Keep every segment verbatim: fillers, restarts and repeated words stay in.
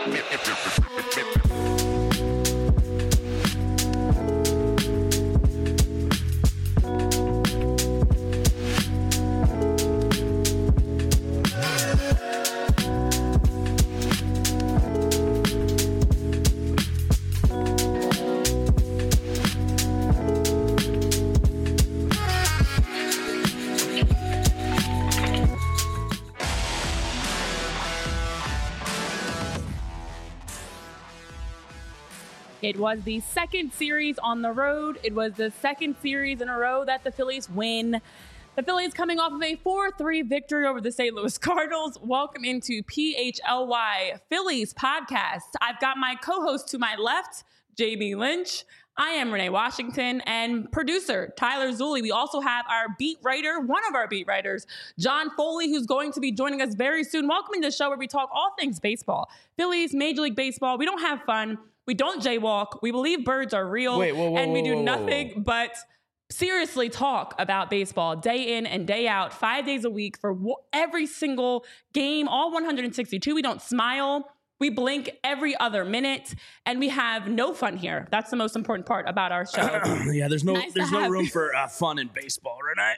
It was the second series on the road. It was the second series in a row that the Phillies win. The Phillies coming off of a four three victory over the Saint Louis Cardinals. Welcome into P H L Y Phillies podcast. I've got my co-host to my left, J B Lynch. I am Renee Washington, and producer Tyler Zulli. We also have our beat writer, one of our beat writers, John Foley, who's going to be joining us very soon. Welcome to the show where we talk all things baseball. Phillies, Major League Baseball. We don't have fun. We don't jaywalk. We believe birds are real. Wait, whoa, whoa, and we do whoa, whoa, nothing whoa. but seriously talk about baseball day in and day out, five days a week for w- every single game, all one hundred sixty-two. We don't smile. We blink every other minute, and we have no fun here. That's the most important part about our show. yeah, there's no Nice to there's no have room you. for uh, fun in baseball, Renee.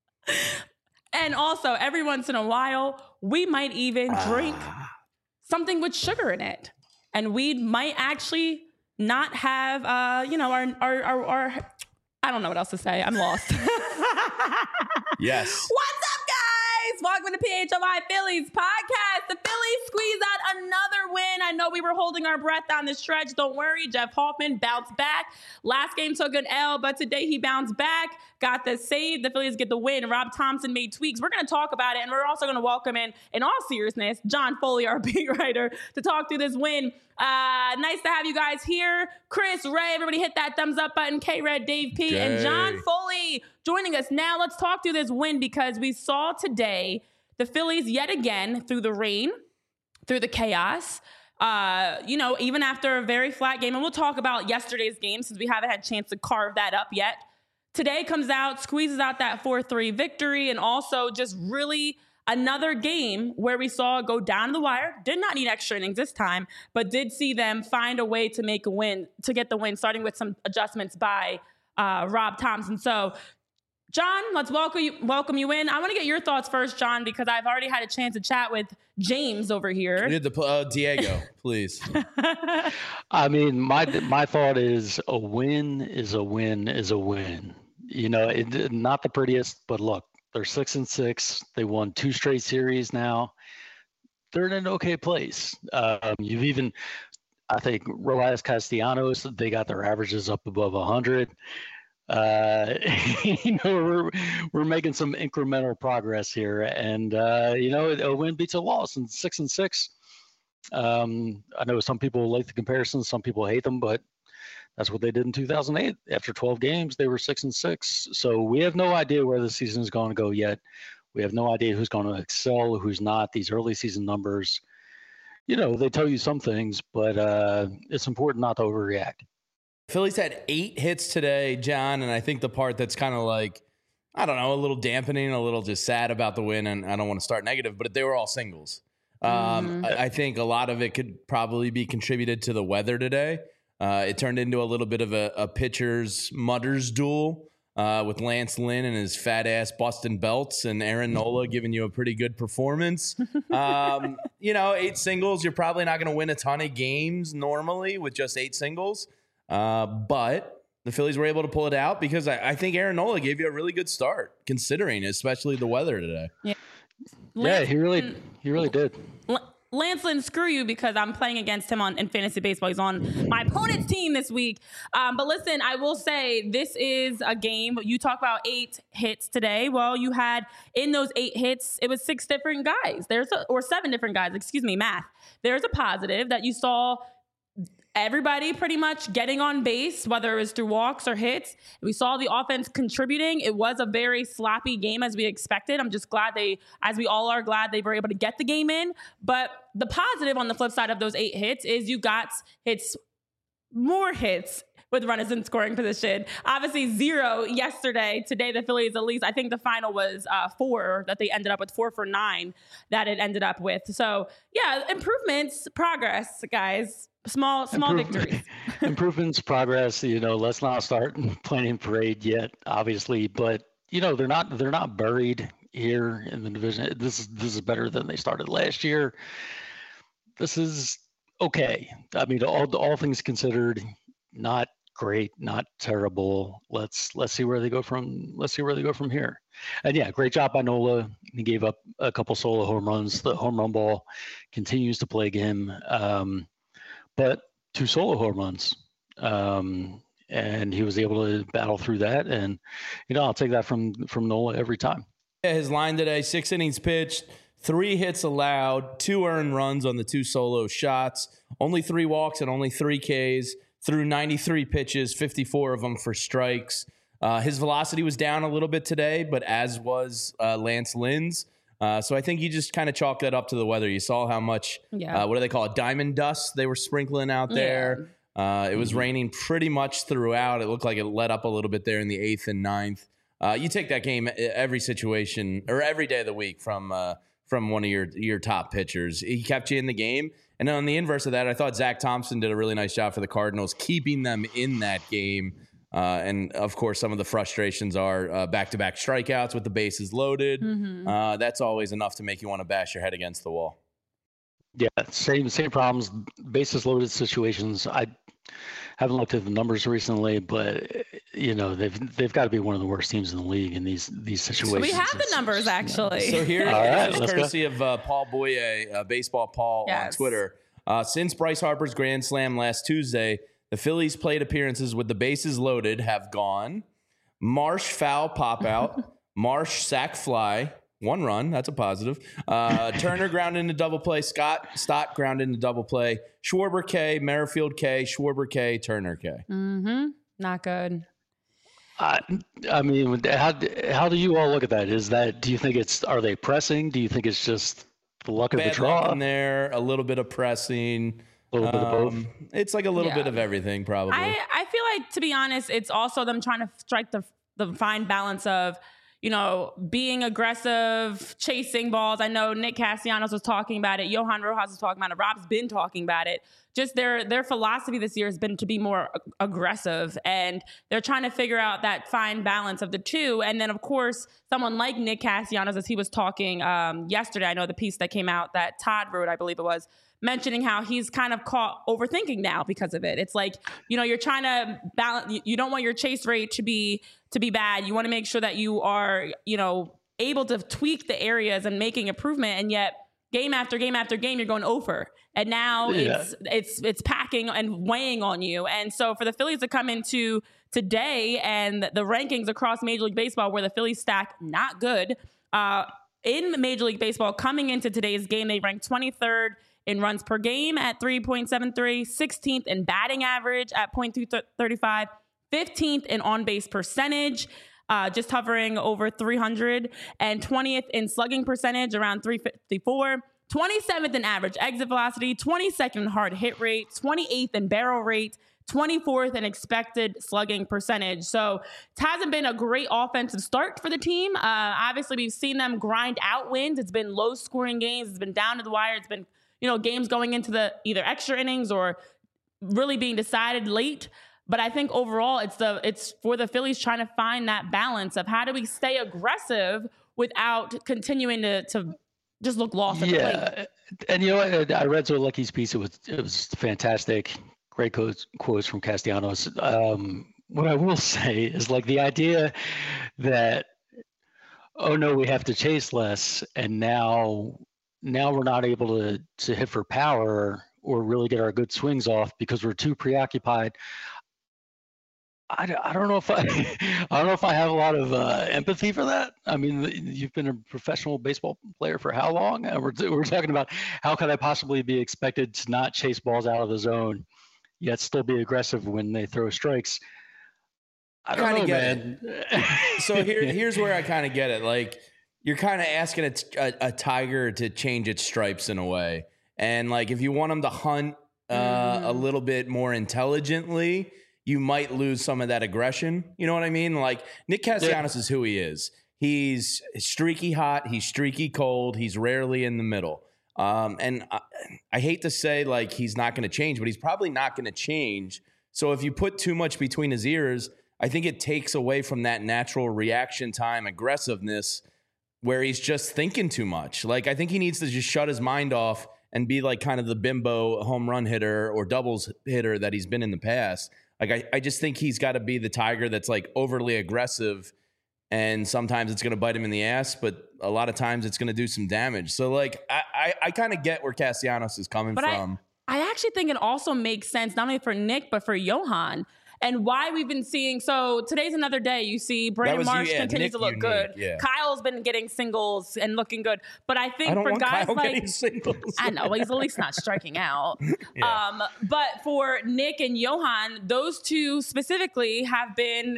And also, every once in a while, we might even drink something with sugar in it. And we might actually not have, uh, you know, our, our, our, our, I don't know what else to say. I'm lost. Yes. What's up, guys? Welcome to P H L Y Phillies podcast. The Phillies squeeze out another win. I know we were holding our breath down the stretch. Don't worry. Jeff Hoffman bounced back. Last game took an L, but today he bounced back, got the save. The Phillies get the win. Rob Thompson made tweaks. We're going to talk about it, and we're also going to welcome in, in all seriousness, John Foley, our beat writer, to talk through this win. Uh, nice to have you guys here. Chris, Ray, everybody hit that thumbs up button. K-Red, Dave P, Jay. and John Foley joining us now. Let's talk through this win because we saw today the Phillies yet again through the rain, through the chaos. Uh, you know, even after a very flat game, and we'll talk about yesterday's game since we haven't had a chance to carve that up yet. Today comes out, squeezes out that four three victory, and also just really another game where we saw it go down to the wire. Did not need extra innings this time, but did see them find a way to make a win, to get the win, starting with some adjustments by uh, Rob Thompson. So, John, let's welcome you, welcome you in. I want to get your thoughts first, John, because I've already had a chance to chat with James over here. We did the uh, Diego, please. I mean, my my thought is a win is a win is a win. You know, it, not the prettiest, but look, they're six and six. They won two straight series now. They're in an okay place. Um, you've even, I think, Rojas Castellanos, they got their averages up above one hundred. Uh, you know, we're we're making some incremental progress here, and uh, you know, a win beats a loss, and six and six. Um, I know some people like the comparisons, some people hate them, but that's what they did in two thousand eight. After twelve games, they were six and six. So we have no idea where the season is going to go yet. We have no idea who's going to excel, who's not. These early season numbers, you know, they tell you some things, but uh, it's important not to overreact. Phillies had eight hits today, John, and I think the part that's kind of like, I don't know, a little dampening, a little just sad about the win, and I don't want to start negative, but they were all singles. Um, Mm-hmm. I, I think a lot of it could probably be contributed to the weather today. Uh, it turned into a little bit of a, a pitcher's mutters duel uh, with Lance Lynn and his fat ass busting belts, and Aaron Nola giving you a pretty good performance. Um, you know, eight singles, you're probably not going to win a ton of games normally with just eight singles. Uh, but the Phillies were able to pull it out because I, I think Aaron Nola gave you a really good start, considering especially the weather today. Yeah, Yeah, he really, he really did. L- Lance Lynn, screw you because I'm playing against him on in fantasy baseball. He's on my opponent's team this week. Um, but listen, I will say this is a game. You talk about eight hits today. Well, you had in those eight hits, it was six different guys. There's a, or seven different guys. Excuse me, math. There's a positive that you saw. Everybody pretty much getting on base, whether it was through walks or hits. We saw the offense contributing. It was a very sloppy game as we expected. I'm just glad they, as we all are glad they were able to get the game in. But the positive on the flip side of those eight hits is you got hits, more hits with runners in scoring position. Obviously zero yesterday. Today the Phillies, at least I think the final was uh, four that they ended up with, four for nine that it ended up with. So yeah, improvements, progress, guys. Small, small Improve- victories. Improvements, progress. You know, let's not start planning parade yet, obviously, but you know they're not they're not buried here in the division. This is this is better than they started last year. This is okay. I mean, all all things considered, not great, not terrible. Let's let's see where they go from. Let's see where they go from here. And yeah, great job by Nola. He gave up a couple solo home runs. The home run ball continues to plague him. Um, but two solo home runs. Um, and he was able to battle through that. And, you know, I'll take that from, from Nola every time. Yeah, his line today, six innings pitched, three hits allowed, two earned runs on the two solo shots, only three walks and only three Ks, threw ninety-three pitches, fifty-four of them for strikes. Uh, his velocity was down a little bit today, but as was uh, Lance Lynn's. Uh, so I think you just kind of chalk that up to the weather. You saw how much, Yeah. uh, what do they call it, diamond dust they were sprinkling out there. Uh, it was Mhm. raining pretty much throughout. It looked like it let up a little bit there in the eighth and ninth. Uh, you take that game every situation or every day of the week from uh, from one of your your top pitchers. He kept you in the game. And then on the inverse of that, I thought Zach Thompson did a really nice job for the Cardinals, keeping them in that game. Uh, and, of course, some of the frustrations are uh, back-to-back strikeouts with the bases loaded. Mm-hmm. Uh, that's always enough to make you want to bash your head against the wall. Yeah, same same problems, bases loaded situations. I haven't looked at the numbers recently, but you know they've they've got to be one of the worst teams in the league in these these situations. We have the numbers actually. So here, All right, this is let's go. courtesy of uh, Paul Boye, uh, Baseball Paul on Yes. Twitter. Uh, since Bryce Harper's Grand Slam last Tuesday, the Phillies' plate appearances with the bases loaded have gone Marsh foul pop out, Marsh sack fly, one run, that's a positive. Uh, Turner ground into double play, Scott Stott ground into double play, Schwarber K, Merrifield K, Schwarber K, Turner K. Mm-hmm. Not good. I, I mean, how how do you all look at that? Is that do you think it's are they pressing? Do you think it's just the luck of the Bad luck draw? in there, a little bit of pressing. A little bit of both. Um, It's like a little Yeah. bit of everything, probably. I, I feel like, to be honest, it's also them trying to strike the the fine balance of, you know, being aggressive, chasing balls. I know Nick Castellanos was talking about it. Johan Rojas was talking about it. Rob's been talking about it. Just their their philosophy this year has been to be more ag- aggressive, and they're trying to figure out that fine balance of the two. And then, of course, someone like Nick Castellanos, as he was talking um, yesterday, I know the piece that came out that Todd wrote, I believe it was, mentioning how he's kind of caught overthinking now because of it. It's like, you know, you're trying to balance, you- you don't want your chase rate to be to be bad. You want to make sure that you are, you know, able to tweak the areas and making improvement, and yet game after game after game you're going over. And now Yeah. it's it's it's packing and weighing on you. And so for the Phillies to come into today and the rankings across Major League Baseball where the Phillies stack not good, uh, in Major League Baseball coming into today's game, they ranked twenty-third in runs per game at three point seven three, sixteenth in batting average at point two three five, fifteenth in on-base percentage, uh, just hovering over three hundred, and twentieth in slugging percentage, around three fifty-four, twenty-seventh in average exit velocity, twenty-second in hard hit rate, twenty-eighth in barrel rate, twenty-fourth in expected slugging percentage. So it hasn't been a great offensive start for the team. Uh, obviously, we've seen them grind out wins. It's been low-scoring games. It's been down to the wire. It's been, you know, games going into the either extra innings or really being decided late. But I think overall, it's the it's for the Phillies trying to find that balance of how do we stay aggressive without continuing to to just look lost at the plate. Yeah, and you know what? I read Zolecki's piece. It was it was fantastic. Great quotes quotes from Castellanos. Um, what I will say is like the idea that, oh no, we have to chase less, and now now we're not able to to hit for power or really get our good swings off because we're too preoccupied. I, I don't know if I I don't know if I have a lot of uh, empathy for that. I mean, you've been a professional baseball player for how long? And we're we're talking about how could I possibly be expected to not chase balls out of the zone, yet still be aggressive when they throw strikes. I don't Kinda know, get man. So here, here's where I kind of get it. Like, you're kind of asking a, a, a tiger to change its stripes in a way. And, like, if you want them to hunt uh, Mhm. a little bit more intelligently, you might lose some of that aggression. You know what I mean? Like Nick Castellanos yeah. is who he is. He's streaky hot. He's streaky cold. He's rarely in the middle. Um, and I, I hate to say like he's not going to change, but he's probably not going to change. So if you put too much between his ears, I think it takes away from that natural reaction time aggressiveness where he's just thinking too much. Like I think he needs to just shut his mind off and be like kind of the bimbo home run hitter or doubles hitter that he's been in the past. Like, I, I just think he's got to be the Tiger that's like overly aggressive, and sometimes it's going to bite him in the ass, but a lot of times it's going to do some damage. So like, I, I, I kind of get where Castellanos is coming but from. I, I actually think it also makes sense, not only for Nick, but for Johan. And why we've been seeing, so today's another day. You see Brandon was, Marsh yeah, continues Nick to look unique, good. yeah. Kyle's been getting singles and looking good. But I think I don't for want guys Kyle like getting singles. I know, he's at least not striking out. Yeah. Um, but for Nick and Johan, those two specifically have been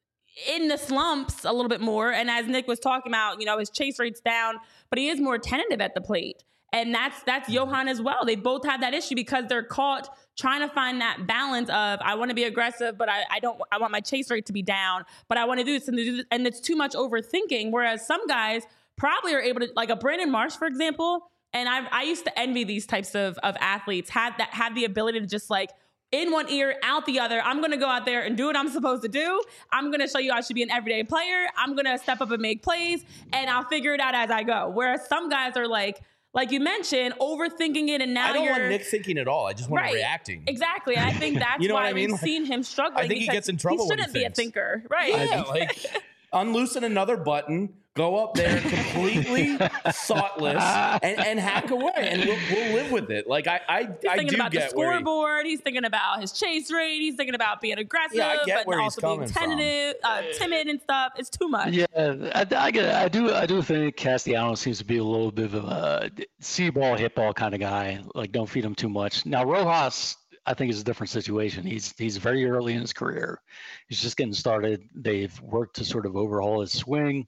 in the slumps a little bit more. And as Nick was talking about, you know, his chase rate's down, but he is more tentative at the plate. And that's that's Johan as well. They both have that issue because they're caught trying to find that balance of I want to be aggressive, but I, I don't. I want my chase rate to be down, but I want to do this and do this, and it's too much overthinking. Whereas some guys probably are able to, like a Brandon Marsh, for example. And I I used to envy these types of of athletes had that had the ability to just like in one ear, out the other. I'm going to go out there and do what I'm supposed to do. I'm going to show you I should be an everyday player. I'm going to step up and make plays, and I'll figure it out as I go. Whereas some guys are like. Like you mentioned, overthinking it, and now I don't you're, want Nick thinking at all. I just want right, him reacting. Exactly. And I think that's you know why what I mean? we've seen him struggling. I think he gets in trouble. He shouldn't when he be a thinker, right? Yeah, like unloosen another button, go up there completely thoughtless, and, and hack away, and we'll, we'll live with it. Like I, I, he's I thinking do about get the where scoreboard. He, he's thinking about his chase rate. He's thinking about being aggressive, Yeah, I get but where he's also being coming tentative, uh, timid, and stuff. It's too much. Yeah, I, I get. I do. I do think Castellanos seems to be a little bit of a see ball, hit ball kind of guy. Like, don't feed him too much. Now Rojas, I think, is a different situation. He's he's very early in his career. He's just getting started. They've worked to sort of overhaul his swing,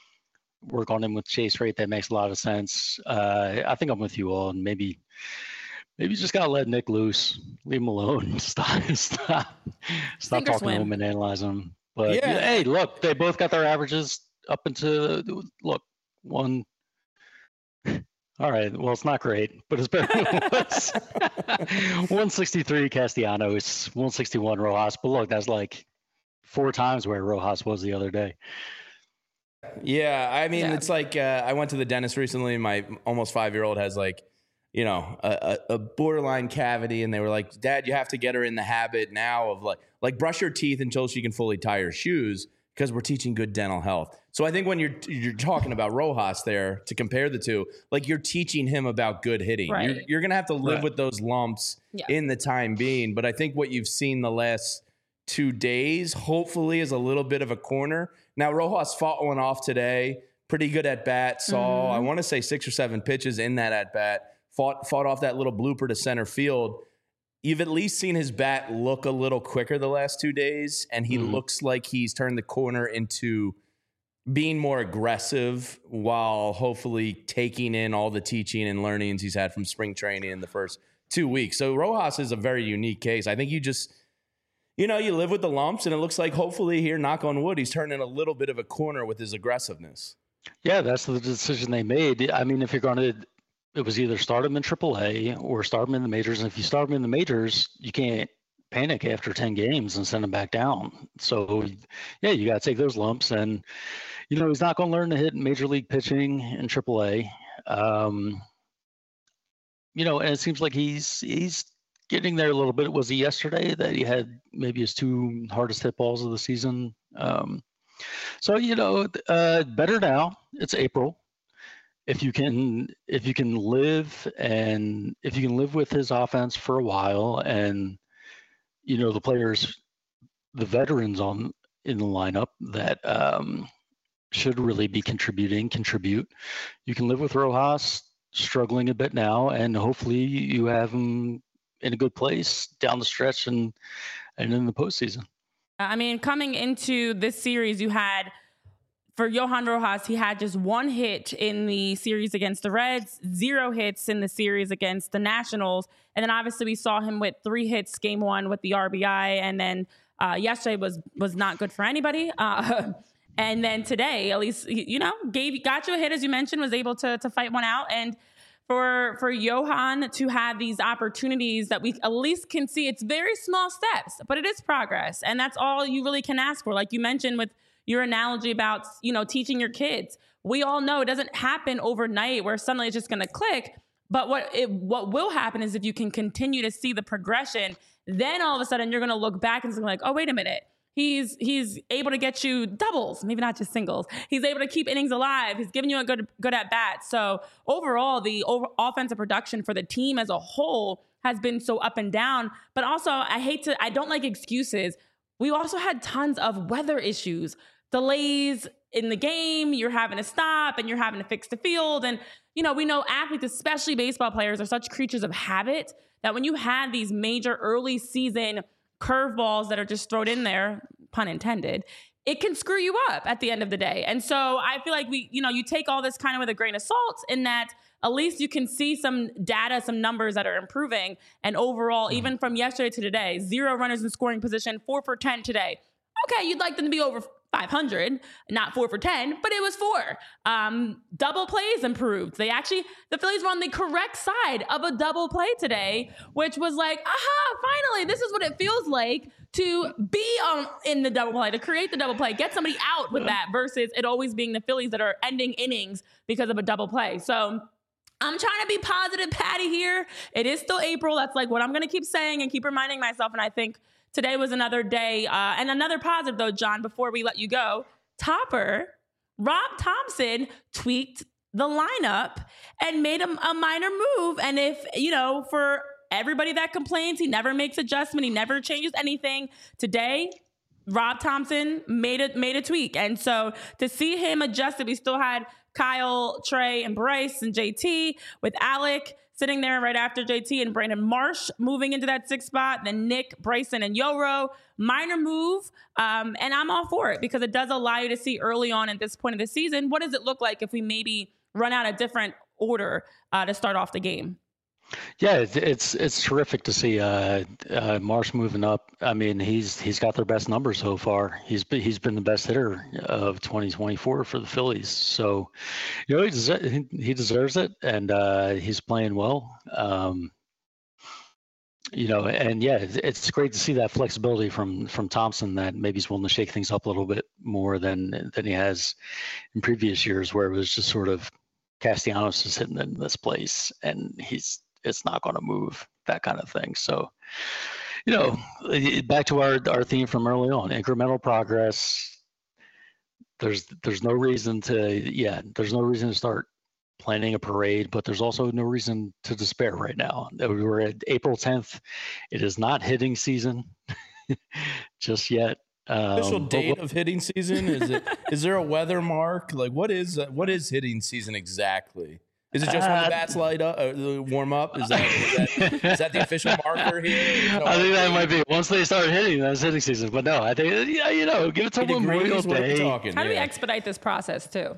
work on him with chase rate. That makes a lot of sense. Uh, I think I'm with you all, and maybe maybe you just gotta let Nick loose, leave him alone, stop stop stop talking swim. to him and analyzing him. But Yeah. yeah, hey, look, they both got their averages up into look one. All right, well, it's not great, but it's better than it was. one sixty-three Castellanos, one sixty-one Rojas. But look, that's like four times where Rojas was the other day. Yeah, I mean, Yeah. it's like uh, I went to the dentist recently. My almost five-year-old has like, you know, a, a a borderline cavity, and they were like, "Dad, you have to get her in the habit now of like, like brush her teeth until she can fully tie her shoes because we're teaching good dental health." So I think when you're you're talking about Rojas there to compare the two, like you're teaching him about good hitting. Right. You're, you're gonna have to live Right. with those lumps Yeah. in the time being. But I think what you've seen the last two days, hopefully, is a little bit of a corner. Now, Rojas fought one off today. Pretty good at bat. Saw, Mhm. I want to say, six or seven pitches in that at bat. Fought, fought off that little blooper to center field. You've at least seen his bat look a little quicker the last two days, and he Mhm. looks like he's turned the corner into being more aggressive while hopefully taking in all the teaching and learnings he's had from spring training in the first two weeks. So Rojas is a very unique case. I think you just, you know, you live with the lumps, and it looks like hopefully here, knock on wood, he's turning a little bit of a corner with his aggressiveness. Yeah, that's the decision they made. I mean, if you're going to, it was either start him in triple A or start him in the majors. And if you start him in the majors, you can't panic after ten games and send him back down. So, yeah, you got to take those lumps. And, you know, he's not going to learn to hit major league pitching in triple A. Um, you know, and it seems like he's he's getting there a little bit. Was he yesterday that he had maybe his two hardest hit balls of the season? Um, so, you know, uh, better now. It's April. If you can, if you can live and if you can live with his offense for a while, and you know the players, the veterans on in the lineup that um, should really be contributing, contribute. You can live with Rojas struggling a bit now, and hopefully you have him in a good place down the stretch and and in the postseason. I mean, coming into this series, you had for Johan Rojas, he had just one hit in the series against the Reds, zero hits in the series against the Nationals. And then obviously we saw him with three hits game one with the R B I. And then uh, yesterday was was not good for anybody. Uh, and then today, at least, you know, gave got you a hit, as you mentioned, was able to to fight one out. And for for Johan to have these opportunities that we at least can see, it's very small steps, but it is progress. And that's all you really can ask for. Like you mentioned with your analogy about, you know, teaching your kids. We all know it doesn't happen overnight where suddenly it's just going to click. But what it, what will happen is if you can continue to see the progression, then all of a sudden you're going to look back and be like, oh, wait a minute. He's he's able to get you doubles, maybe not just singles. He's able to keep innings alive. He's giving you a good good at bat. So overall, the over offensive production for the team as a whole has been so up and down. But also, I hate to, I don't like excuses. We also had tons of weather issues, delays in the game. You're having to stop and you're having to fix the field. And, you know, we know athletes, especially baseball players, are such creatures of habit that when you had these major early season curveballs that are just thrown in there, pun intended, it can screw you up at the end of the day. And so I feel like we, you know, you take all this kind of with a grain of salt in that at least you can see some data, some numbers that are improving. And overall, even from yesterday to today, zero runners in scoring position, four for ten today. Okay, you'd like them to be over five hundred, not four for ten, but it was four. Um, double plays improved. They actually, the Phillies were on the correct side of a double play today, which was like, aha, finally, this is what it feels like to be on in the double play, to create the double play, get somebody out with that versus it always being the Phillies that are ending innings because of a double play. So I'm trying to be positive, Patty, here. It is still April. That's like what I'm going to keep saying and keep reminding myself. And I think today was another day. Uh, and another positive, though, John, before we let you go, Topper, Rob Thompson tweaked the lineup and made a, a minor move. And if, you know, for everybody that complains, he never makes adjustment, he never changes anything. Today, Rob Thompson made a, made a tweak. And so to see him adjust, we still had Kyle, Trey, and Bryce and J T with Alec sitting there right after J T and Brandon Marsh moving into that sixth spot. Then Nick, Bryson, and Yoro. Minor move. Um, and I'm all for it because it does allow you to see early on at this point of the season, what does it look like if we maybe run out a different order uh, to start off the game? Yeah, it's it's, it's terrific to see uh, uh, Marsh moving up. I mean, he's he's got their best numbers so far. He's been, he's been the best hitter of twenty twenty-four for the Phillies. So, you know, he deserves, he deserves it, and uh, he's playing well. Um, you know, and yeah, it's, it's great to see that flexibility from from Thompson, that maybe he's willing to shake things up a little bit more than than he has in previous years, where it was just sort of Castellanos is hitting in this place, and he's it's not going to move, that kind of thing. So, you know, back to our, our theme from early on, incremental progress. There's, there's no reason to, yeah, there's no reason to start planning a parade, but there's also no reason to despair right now. We were at April tenth. It is not hitting season just yet. Um, Official date but, of hitting season? Is it, is there a weather mark? Like what is, uh, what is hitting season exactly? Is it just when the bats light up, uh, warm up? Is that, is that is that the official marker here? No, I think that might be once they start hitting. That's hitting season. But no, I think yeah, you know, give it to Memorial Day. Talking, How yeah. do we expedite this process too?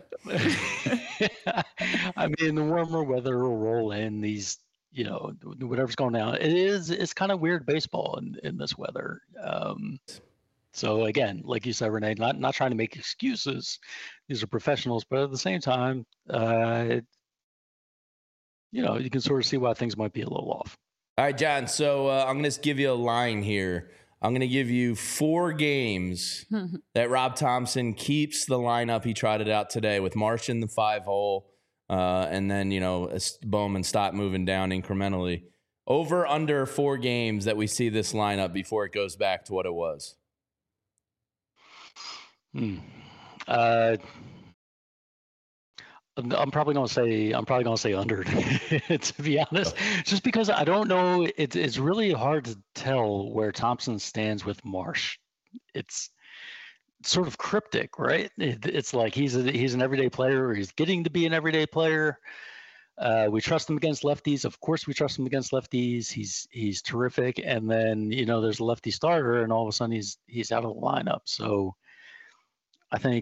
I mean, the warmer weather will roll in. These, you know, whatever's going on. It is. It's kind of weird baseball in, in this weather. Um, so again, like you said, Renee, not not trying to make excuses. These are professionals, but at the same time, uh, it, you know, you can sort of see why things might be a little off. All right, John. So uh, I'm going to give you a line here. I'm going to give you four games that Rob Thompson keeps the lineup he trotted out today with Marsh in the five hole, uh, and then, you know, Bowman stop moving down incrementally. Over under four games that we see this lineup before it goes back to what it was. Hmm. Uh, I'm probably going to say I'm probably going to say under, to be honest, just because I don't know. It's it's really hard to tell where Thompson stands with Marsh. It's sort of cryptic, right? It, it's like he's a, he's an everyday player, or he's getting to be an everyday player. Uh, we trust him against lefties. Of course, we trust him against lefties. He's he's terrific. And then, you know, there's a lefty starter, and all of a sudden he's he's out of the lineup. So I think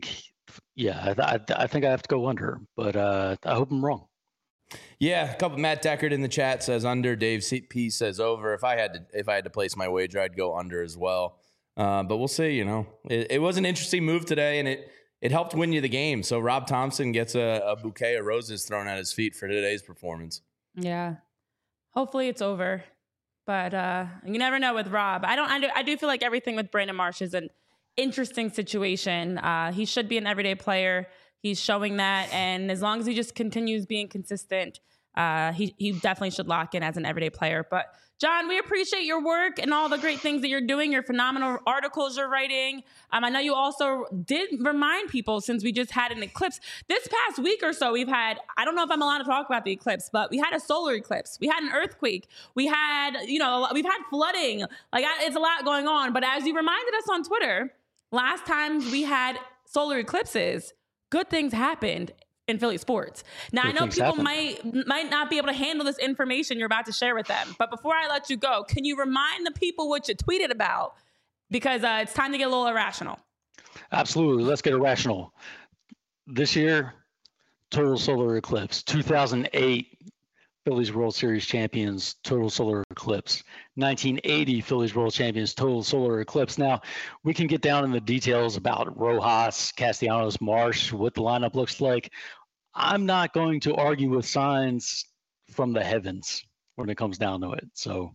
yeah, I, I, I think I have to go under, but uh, I hope I'm wrong. Yeah, a couple. Matt Deckard in the chat says under. Dave C P says over. If I had to, if I had to place my wager, I'd go under as well. Uh, but we'll see. You know, it, it was an interesting move today, and it it helped win you the game. So Rob Thompson gets a, a bouquet of roses thrown at his feet for today's performance. Yeah, hopefully it's over, but uh, you never know with Rob. I don't. I do, I do feel like everything with Brandon Marsh is an interesting situation. Uh, he should be an everyday player. He's showing that, and as long as he just continues being consistent, uh, he he definitely should lock in as an everyday player. But John, we appreciate your work and all the great things that you're doing, your phenomenal articles you're writing. Um, I know you also did remind people, since we just had an eclipse this past week or so, we've had, I don't know if I'm allowed to talk about the eclipse, but we had a solar eclipse. We had an earthquake. We had, you know, we've had flooding. Like, it's a lot going on. But as you reminded us on Twitter, last time we had solar eclipses, good things happened in Philly sports. Now, good I know people happen. might might not be able to handle this information you're about to share with them. But before I let you go, can you remind the people what you tweeted about? Because uh, it's time to get a little irrational. Absolutely. Let's get irrational. This year, total solar eclipse. two thousand eight, Phillies World Series champions, total solar eclipse. nineteen eighty, Phillies World Champions, total solar eclipse. Now, we can get down in the details about Rojas, Castellanos, Marsh, what the lineup looks like. I'm not going to argue with signs from the heavens when it comes down to it. So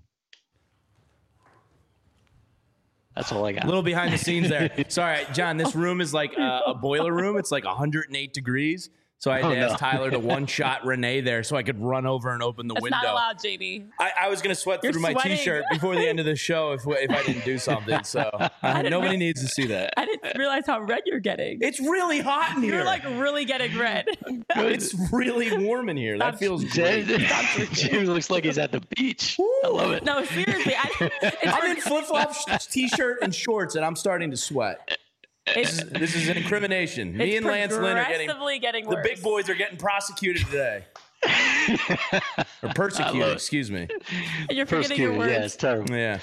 that's all I got. A little behind the scenes there. Sorry, John, this room is like a, a boiler room. It's like one hundred eight degrees. So I had to oh, ask no. Tyler to one-shot Renee there so I could run over and open the That's window. That's not allowed, J B. I, I was going to sweat You're through sweating. my T-shirt before the end of the show if if I didn't do something. So uh, nobody re- needs to see that. I didn't realize how red you're getting. It's really hot in here. You're like really getting red. It's really warm in here. That Stop, feels great. James looks like he's at the beach. Woo. I love it. No, seriously. I, I'm in flip-flops, T-shirt, and shorts, and I'm starting to sweat. This is, this is an incrimination. Me and Lance Lynn are getting, getting the big boys are getting prosecuted today. Or persecuted, excuse me. And you're forgetting your words. Yeah, it's terrible. Yeah.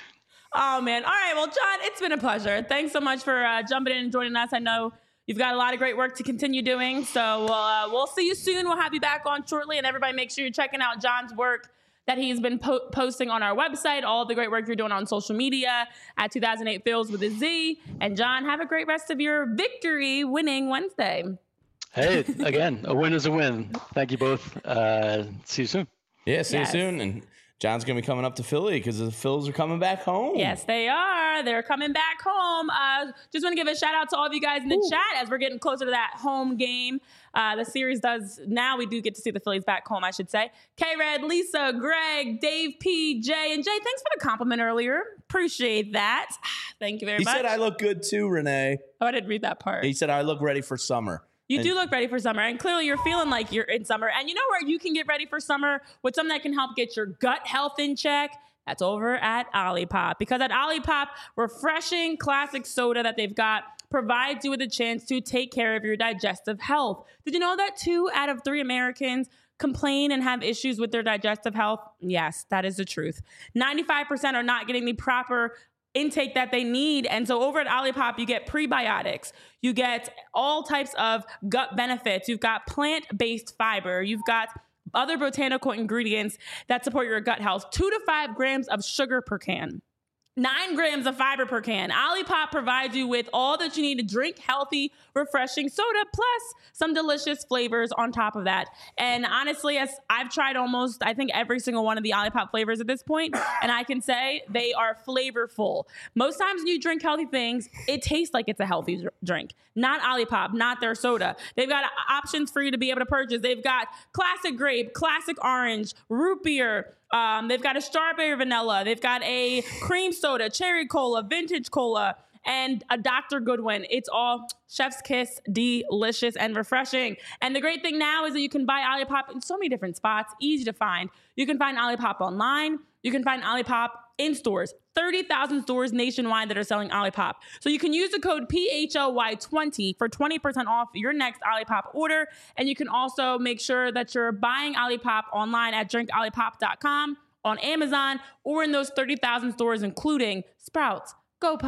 Oh, man. All right. Well, John, it's been a pleasure. Thanks so much for uh, jumping in and joining us. I know you've got a lot of great work to continue doing. So uh, we'll see you soon. We'll have you back on shortly. And everybody make sure you're checking out John's work that he's been po- posting on our website, all the great work you're doing on social media at two thousand eight Phils with a Z. And John, have a great rest of your victory winning Wednesday. Hey, again, a win is a win. Thank you both. Uh, see you soon. Yeah, see yes. you soon. And John's going to be coming up to Philly because the Phils are coming back home. Yes, they are. They're coming back home. Uh, just want to give a shout out to all of you guys in the Ooh. chat as we're getting closer to that home game. Uh, the series does, now we do get to see the Phillies back home, I should say. K-Red, Lisa, Greg, Dave P, Jay, and Jay, thanks for the compliment earlier. Appreciate that. Thank you very he much. He said I look good too, Renee. Oh, I didn't read that part. He said I look ready for summer. You and- do look ready for summer, and clearly you're feeling like you're in summer. And you know where you can get ready for summer with something that can help get your gut health in check? That's over at Olipop. Because at Olipop, refreshing classic soda that they've got provides you with a chance to take care of your digestive health. Did you know that two out of three Americans complain and have issues with their digestive health? Yes, that is the truth. ninety-five percent are not getting the proper intake that they need. And so over at Olipop, you get prebiotics. You get all types of gut benefits. You've got plant-based fiber. You've got other botanical ingredients that support your gut health. Two to five grams of sugar per can. Nine grams of fiber per can. Olipop provides you with all that you need to drink healthy, refreshing soda, plus some delicious flavors on top of that. And honestly, as I've tried almost, I think, every single one of the Olipop flavors at this point, and I can say they are flavorful. Most times when you drink healthy things, it tastes like it's a healthy dr- drink. Not Olipop, not their soda. They've got options for you to be able to purchase. They've got classic grape, classic orange, root beer. Um, they've got a strawberry vanilla. They've got a cream soda, cherry cola, vintage cola, and a Doctor Goodwin. It's all chef's kiss, delicious and refreshing. And the great thing now is that you can buy Olipop in so many different spots, easy to find. You can find Olipop online. You can find Olipop in stores. thirty thousand stores nationwide that are selling Olipop. So you can use the code P H L Y twenty for twenty percent off your next Olipop order. And you can also make sure that you're buying Olipop online at drink olipop dot com, on Amazon, or in those thirty thousand stores, including Sprouts, GoPuff,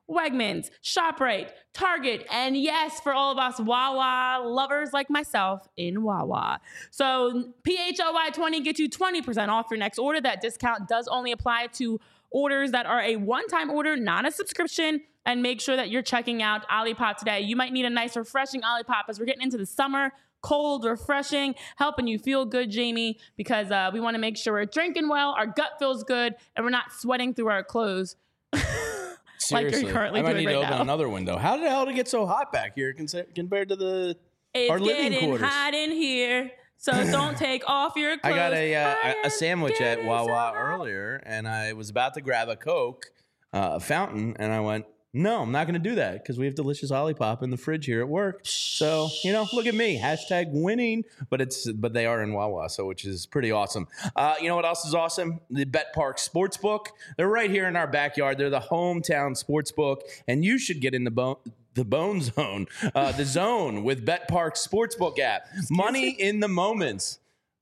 Wegmans, ShopRite, Target, and yes, for all of us Wawa lovers like myself, in Wawa. So P H O Y twenty gets you twenty percent off your next order. That discount does only apply to orders that are a one-time order, not a subscription. And make sure that you're checking out Olipop today. You might need a nice, refreshing Olipop as we're getting into the summer. Cold, refreshing, helping you feel good, Jamie, because uh, we want to make sure we're drinking well, our gut feels good, and we're not sweating through our clothes. Like you're currently I might doing need right to open now. another window. How the hell did it get so hot back here compared to the It's our living getting quarters? hot in here, so don't take off your clothes. I got a uh, I a- a am sandwich at getting Wawa so hot. earlier, and I was about to grab a Coke, uh, a fountain, and I went, no, I'm not going to do that because we have delicious Olipop in the fridge here at work. So, you know, look at me, hashtag winning, but it's but they are in Wawa, so which is pretty awesome. Uh, you know what else is awesome? The Bet Park Sportsbook. They're right here in our backyard. They're the hometown sportsbook, and you should get in the bone. The Bone Zone, uh, the Zone with Bet Park Sportsbook app. Money in the moments.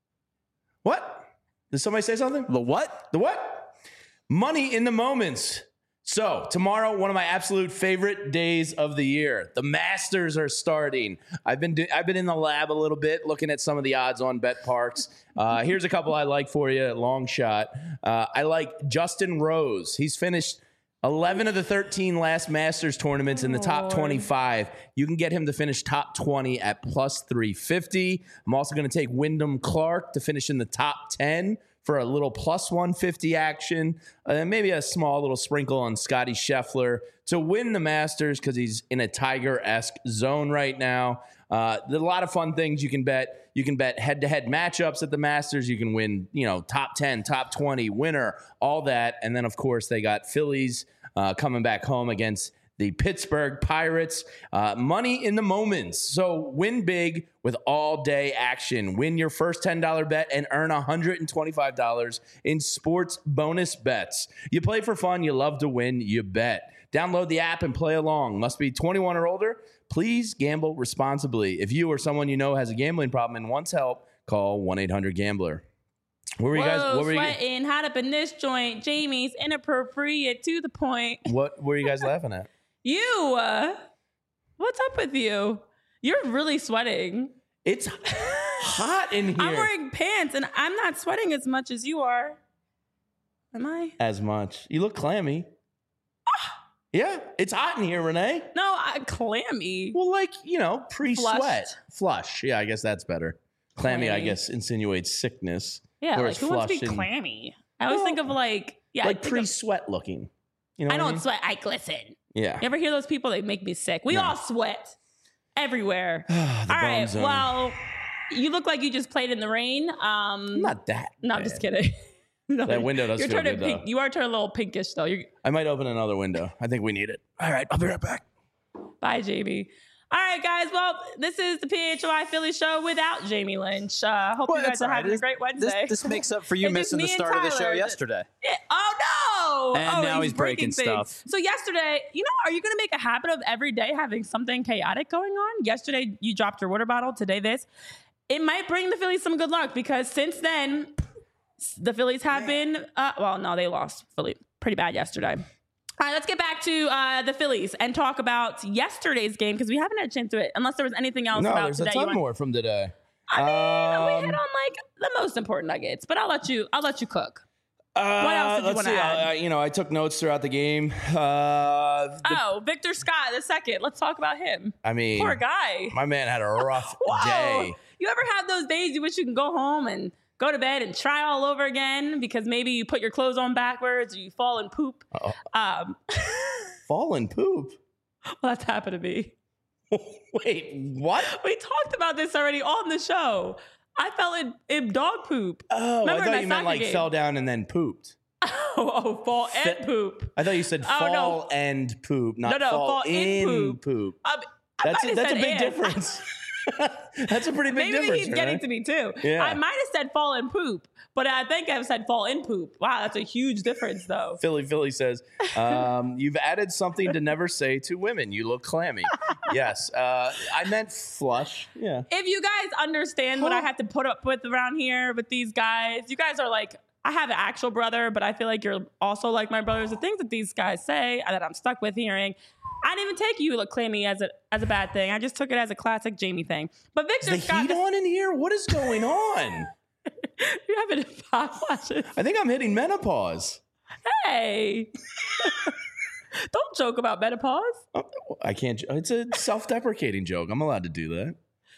What? Did somebody say something? The what? The what? Money in the moments. So tomorrow, one of my absolute favorite days of the year. The Masters are starting. I've been do- I've been in the lab a little bit, looking at some of the odds on Bet Parks. Uh, here's a couple I like for you. Long shot. Uh, I like Justin Rose. He's finished eleven of the thirteen last Masters tournaments in the top twenty-five. You can get him to finish top twenty at plus three fifty. I'm also going to take Wyndham Clark to finish in the top ten for a little plus one fifty action. And uh, maybe a small little sprinkle on Scotty Scheffler to win the Masters because he's in a Tiger-esque zone right now. Uh, there's a lot of fun things you can bet. You can bet head-to-head matchups at the Masters. You can win, you know, top ten, top twenty, winner, all that. And then, of course, they got Phillies uh, coming back home against the Pittsburgh Pirates. Uh, money in the moments. So win big with all-day action. Win your first ten dollars bet and earn one hundred twenty-five dollars in sports bonus bets. You play for fun. You love to win. You bet. Download the app and play along. Must be twenty-one or older. Please gamble responsibly. If you or someone you know has a gambling problem and wants help, call one eight hundred gambler. What were you guys? Whoa, What were you? sweating, hot up in this joint. Jamie's inappropriate to the point. What were you guys laughing at? You, uh, what's up with you? You're really sweating. It's hot in here. I'm wearing pants and I'm not sweating as much as you are. Am I? as much. You look clammy. Yeah, it's hot in here, Renee. No, I, clammy. Well, like, you know, pre-sweat. Flushed. Flush. Yeah, I guess that's better. Clammy, I Clammy. guess, insinuates sickness. Yeah, Whereas like who wants to be flushed and- clammy? I always Well, think of like, yeah, I like think of- pre-sweat looking. You know I what don't mean? sweat. I glisten. Yeah. You ever hear those people? They make me sick. We No. all sweat everywhere. The all bone right. zone. Well, you look like you just played in the rain. Um, Not that. no, I'm bad. just kidding. No, That window does you're feel turning good, pink. though. You are turning a little pinkish though. You're, I might open another window. I think we need it. All right, I'll be right back. bye, Jamie. All right, guys. Well, this is the P H O I Philly show without Jamie Lynch. Uh, hope Well, you guys it's are all right. having a This- great This, Wednesday. this makes up for you It's just missing the me and start of the show Tyler. yesterday. Yeah. Oh no! And oh, now he's breaking things. stuff. So yesterday, you know, are you going to make a habit of every day having something chaotic going on? Yesterday, you dropped your water bottle. Today, this. It might bring the Phillies some good luck because since then, the Phillies have been. Uh, well, no, they lost Philly pretty bad yesterday. All right, let's get back to uh, the Phillies and talk about yesterday's game because we haven't had a chance to it. Unless there was anything else No, about there's a today. you ton want- more from today. I mean, we Um, hit on like the most important nuggets, but I'll let you. I'll let you cook. Uh, What else did you let's wanna see. add? I, you know, I took notes throughout the game. Uh, the- Oh, Victor Scott the second. Let's talk about him. I mean, Poor guy. my man had a rough Whoa. day. You ever have those days you wish you can go home and go to bed and try all over again because maybe you put your clothes on backwards or you fall and poop? Uh-oh. Um, Fallen poop. well, that's happened to me. Wait, what? We talked about this already on the show. I fell in, in dog poop. Oh, Remember I in thought my you meant soccer like game? fell down and then pooped. Oh, oh fall and Fe- poop. I thought you said Oh, no. fall and poop, not No, no, fall, fall in in poop. poop. Um, I That's might a, have that's a said big and. difference. That's a pretty big Maybe difference. he's getting right? to me too. Yeah. I might have said fall and poop, but I think I've said fall in poop. Wow, that's a huge difference though. Philly Philly says, um, you've added something to never say to women. You look clammy. Yes. Uh, I meant flush. Yeah. If you guys understand what I Huh? have to put up with around here with these guys, you guys are like, I have an actual brother, but I feel like you're also like my brothers. The things that these guys say that I'm stuck with hearing, I didn't even take you claiming me as a as a bad thing. I just took it as a classic Jamie thing. But Victor Is the Scott, heat on in here? What is going on? you're having hot flashes. I think I'm hitting menopause. Hey, don't joke about menopause. Oh, I can't. It's a self-deprecating joke. I'm allowed to do that.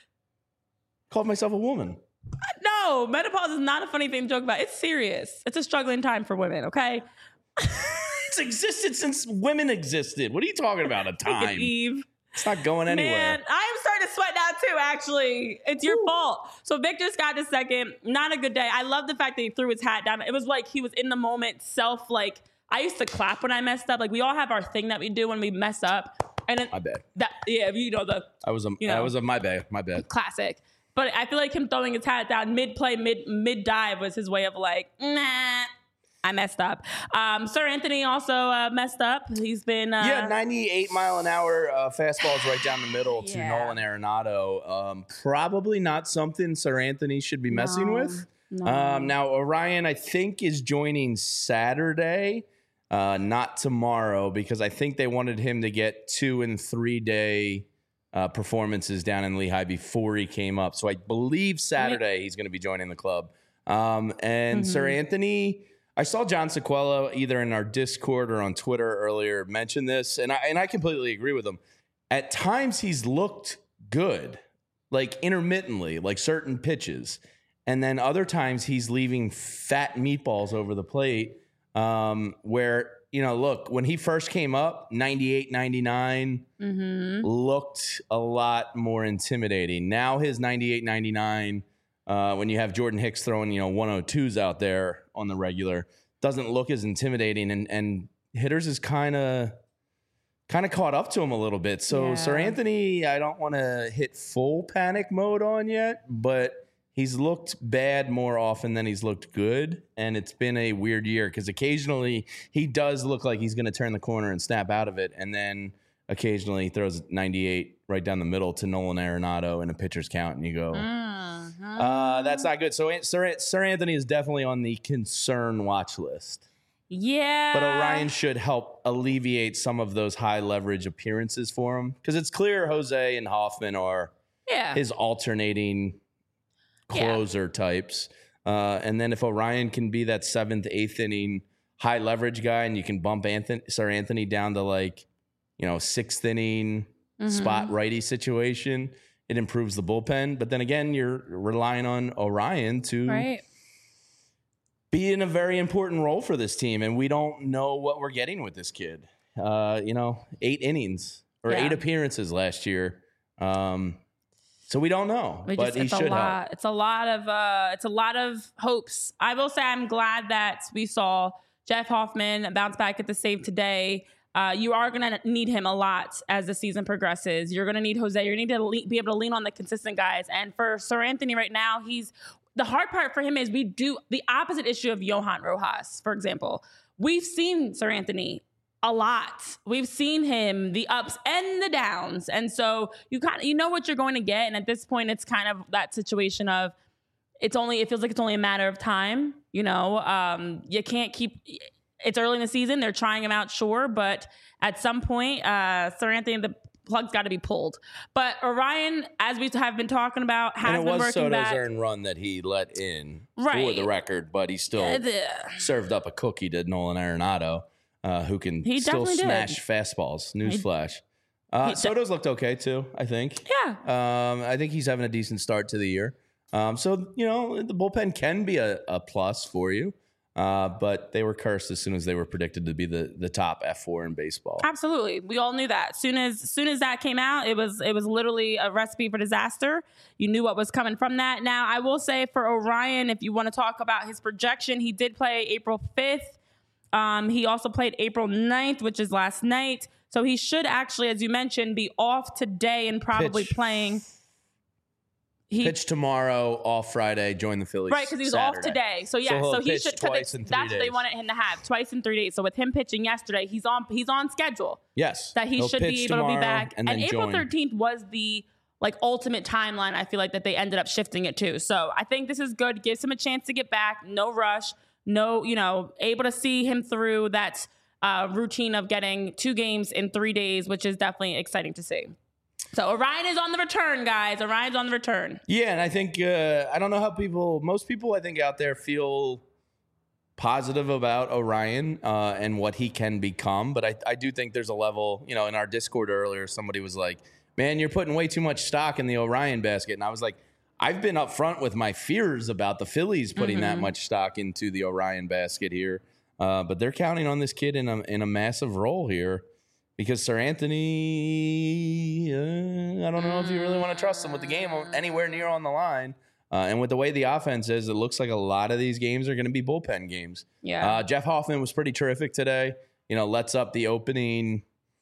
Called myself a woman. No, menopause is not a funny thing to joke about. It's serious. It's a struggling time for women. Okay. It's existed since women existed. What are you talking about? A time? Eve. It's not going anywhere. Man, I am starting to sweat now too, actually. It's your Ooh. fault. So Victor Scott the second, not a good day. I love the fact that he threw his hat down. It was like he was in the moment, self, like, I used to clap when I messed up. Like, we all have our thing that we do when we mess up. And then my bad. That, yeah, you know, the... I was a, you know, I was a my bad, my bad. Classic. But I feel like him throwing his hat down mid-play, mid, mid-dive was his way of like, nah, I messed up. Um, Sir Anthony also uh, messed up. He's been... Uh, yeah, ninety-eight mile an hour uh, fastballs right down the middle to yeah. Nolan Arenado. Um, probably not something Sir Anthony should be messing no, with. No. Um, now, Orion, I think, is joining Saturday, uh, not tomorrow, because I think they wanted him to get two and three day uh, performances down in Lehigh before he came up. So I believe Saturday he's going to be joining the club. Um, and mm-hmm. Sir Anthony... I saw John Sequello either in our Discord or on Twitter earlier mention this, and I and I completely agree with him. At times, he's looked good, like intermittently, like certain pitches. And then other times, he's leaving fat meatballs over the plate um, where, you know, look, when he first came up, ninety-eight, ninety-nine mm-hmm. looked a lot more intimidating. Now his ninety-eight, ninety-nine... Uh, when you have Jordan Hicks throwing, you know, one oh twos out there on the regular, doesn't look as intimidating, and and hitters is kind of kind of caught up to him a little bit. So yeah. Sir Anthony, I don't want to hit full panic mode on yet, but he's looked bad more often than he's looked good, and it's been a weird year because occasionally he does look like he's going to turn the corner and snap out of it, and then occasionally he throws ninety-eight right down the middle to Nolan Arenado in a pitcher's count, and you go, mm-hmm. uh, that's not good. So Sir, Sir Anthony is definitely on the concern watch list. Yeah. But Orion should help alleviate some of those high leverage appearances for him, because it's clear Jose and Hoffman are yeah. his alternating closer yeah. types. Uh, and then if Orion can be that seventh, eighth inning high leverage guy, and you can bump Anthony, Sir Anthony down to like, you know, sixth inning mm-hmm. spot righty situation, it improves the bullpen. But then again, you're relying on Orion to right. be in a very important role for this team. And we don't know what we're getting with this kid. Uh, you know, eight innings or yeah. eight appearances last year. Um, so we don't know, we but just, he it's should a lot. help. It's a lot of, uh, it's a lot of hopes. I will say I'm glad that we saw Jeff Hoffman bounce back at the save today. Uh, you are going to need him a lot as the season progresses. You're going to need Jose. You're going to need to le- be able to lean on the consistent guys. And for Sir Anthony right now, he's the hard part for him is we do the opposite issue of Johan Rojas, for example. We've seen Sir Anthony a lot. We've seen him the ups and the downs. And so you kind of, you know what you're going to get. And at this point, it's kind of that situation of it's only, it feels like it's only a matter of time. You know, um, you can't keep... It's early in the season. They're trying him out, sure. But at some point, uh, Sir Anthony, the plug's got to be pulled. But Orion, as we have been talking about, has and it been was working Soto's back. earned run that he let in right. for the record, but he still uh, served up a cookie to Nolan Arenado, uh, who can he still smash did. fastballs. Newsflash. Uh, Soto's looked okay, too, I think. Yeah. Um, I think he's having a decent start to the year. Um, so, you know, the bullpen can be a, a plus for you. Uh, but they were cursed as soon as they were predicted to be the, the top F four in baseball. Absolutely. We all knew that. Soon as soon as that came out, it was it was literally a recipe for disaster. You knew what was coming from that. Now, I will say for Orion, if you want to talk about his projection, he did play April fifth. Um, he also played April ninth, which is last night. So he should actually, as you mentioned, be off today and probably Pitch. playing... He, pitch tomorrow, off Friday, join the Phillies. Right, because he was Saturday. off today. So yeah, so, so he should. Twice in three that's days. what they wanted him to have, twice in three days. So with him pitching yesterday, he's on. He's on schedule. Yes, that he He'll should be able to be back. And, and April join. thirteenth was the like ultimate timeline. I feel like that they ended up shifting it to. So I think this is good. Gives him a chance to get back. No rush. no, you know, able to see him through that uh, routine of getting two games in three days, which is definitely exciting to see. So Orion is on the return, guys. Orion's on the return. Yeah, and I think, uh, I don't know how people, most people I think out there feel positive about Orion uh, and what he can become. But I, I do think there's a level, you know, in our Discord earlier, somebody was like, man, you're putting way too much stock in the Orion basket. And I was like, I've been upfront with my fears about the Phillies putting mm-hmm. that much stock into the Orion basket here. Uh, but they're counting on this kid in a, in a massive role here. Because Sir Anthony, uh, I don't know if you really want to trust him with the game anywhere near on the line. Uh, and with the way the offense is, it looks like a lot of these games are going to be bullpen games. Yeah. Uh, Jeff Hoffman was pretty terrific today. You know, lets up the opening.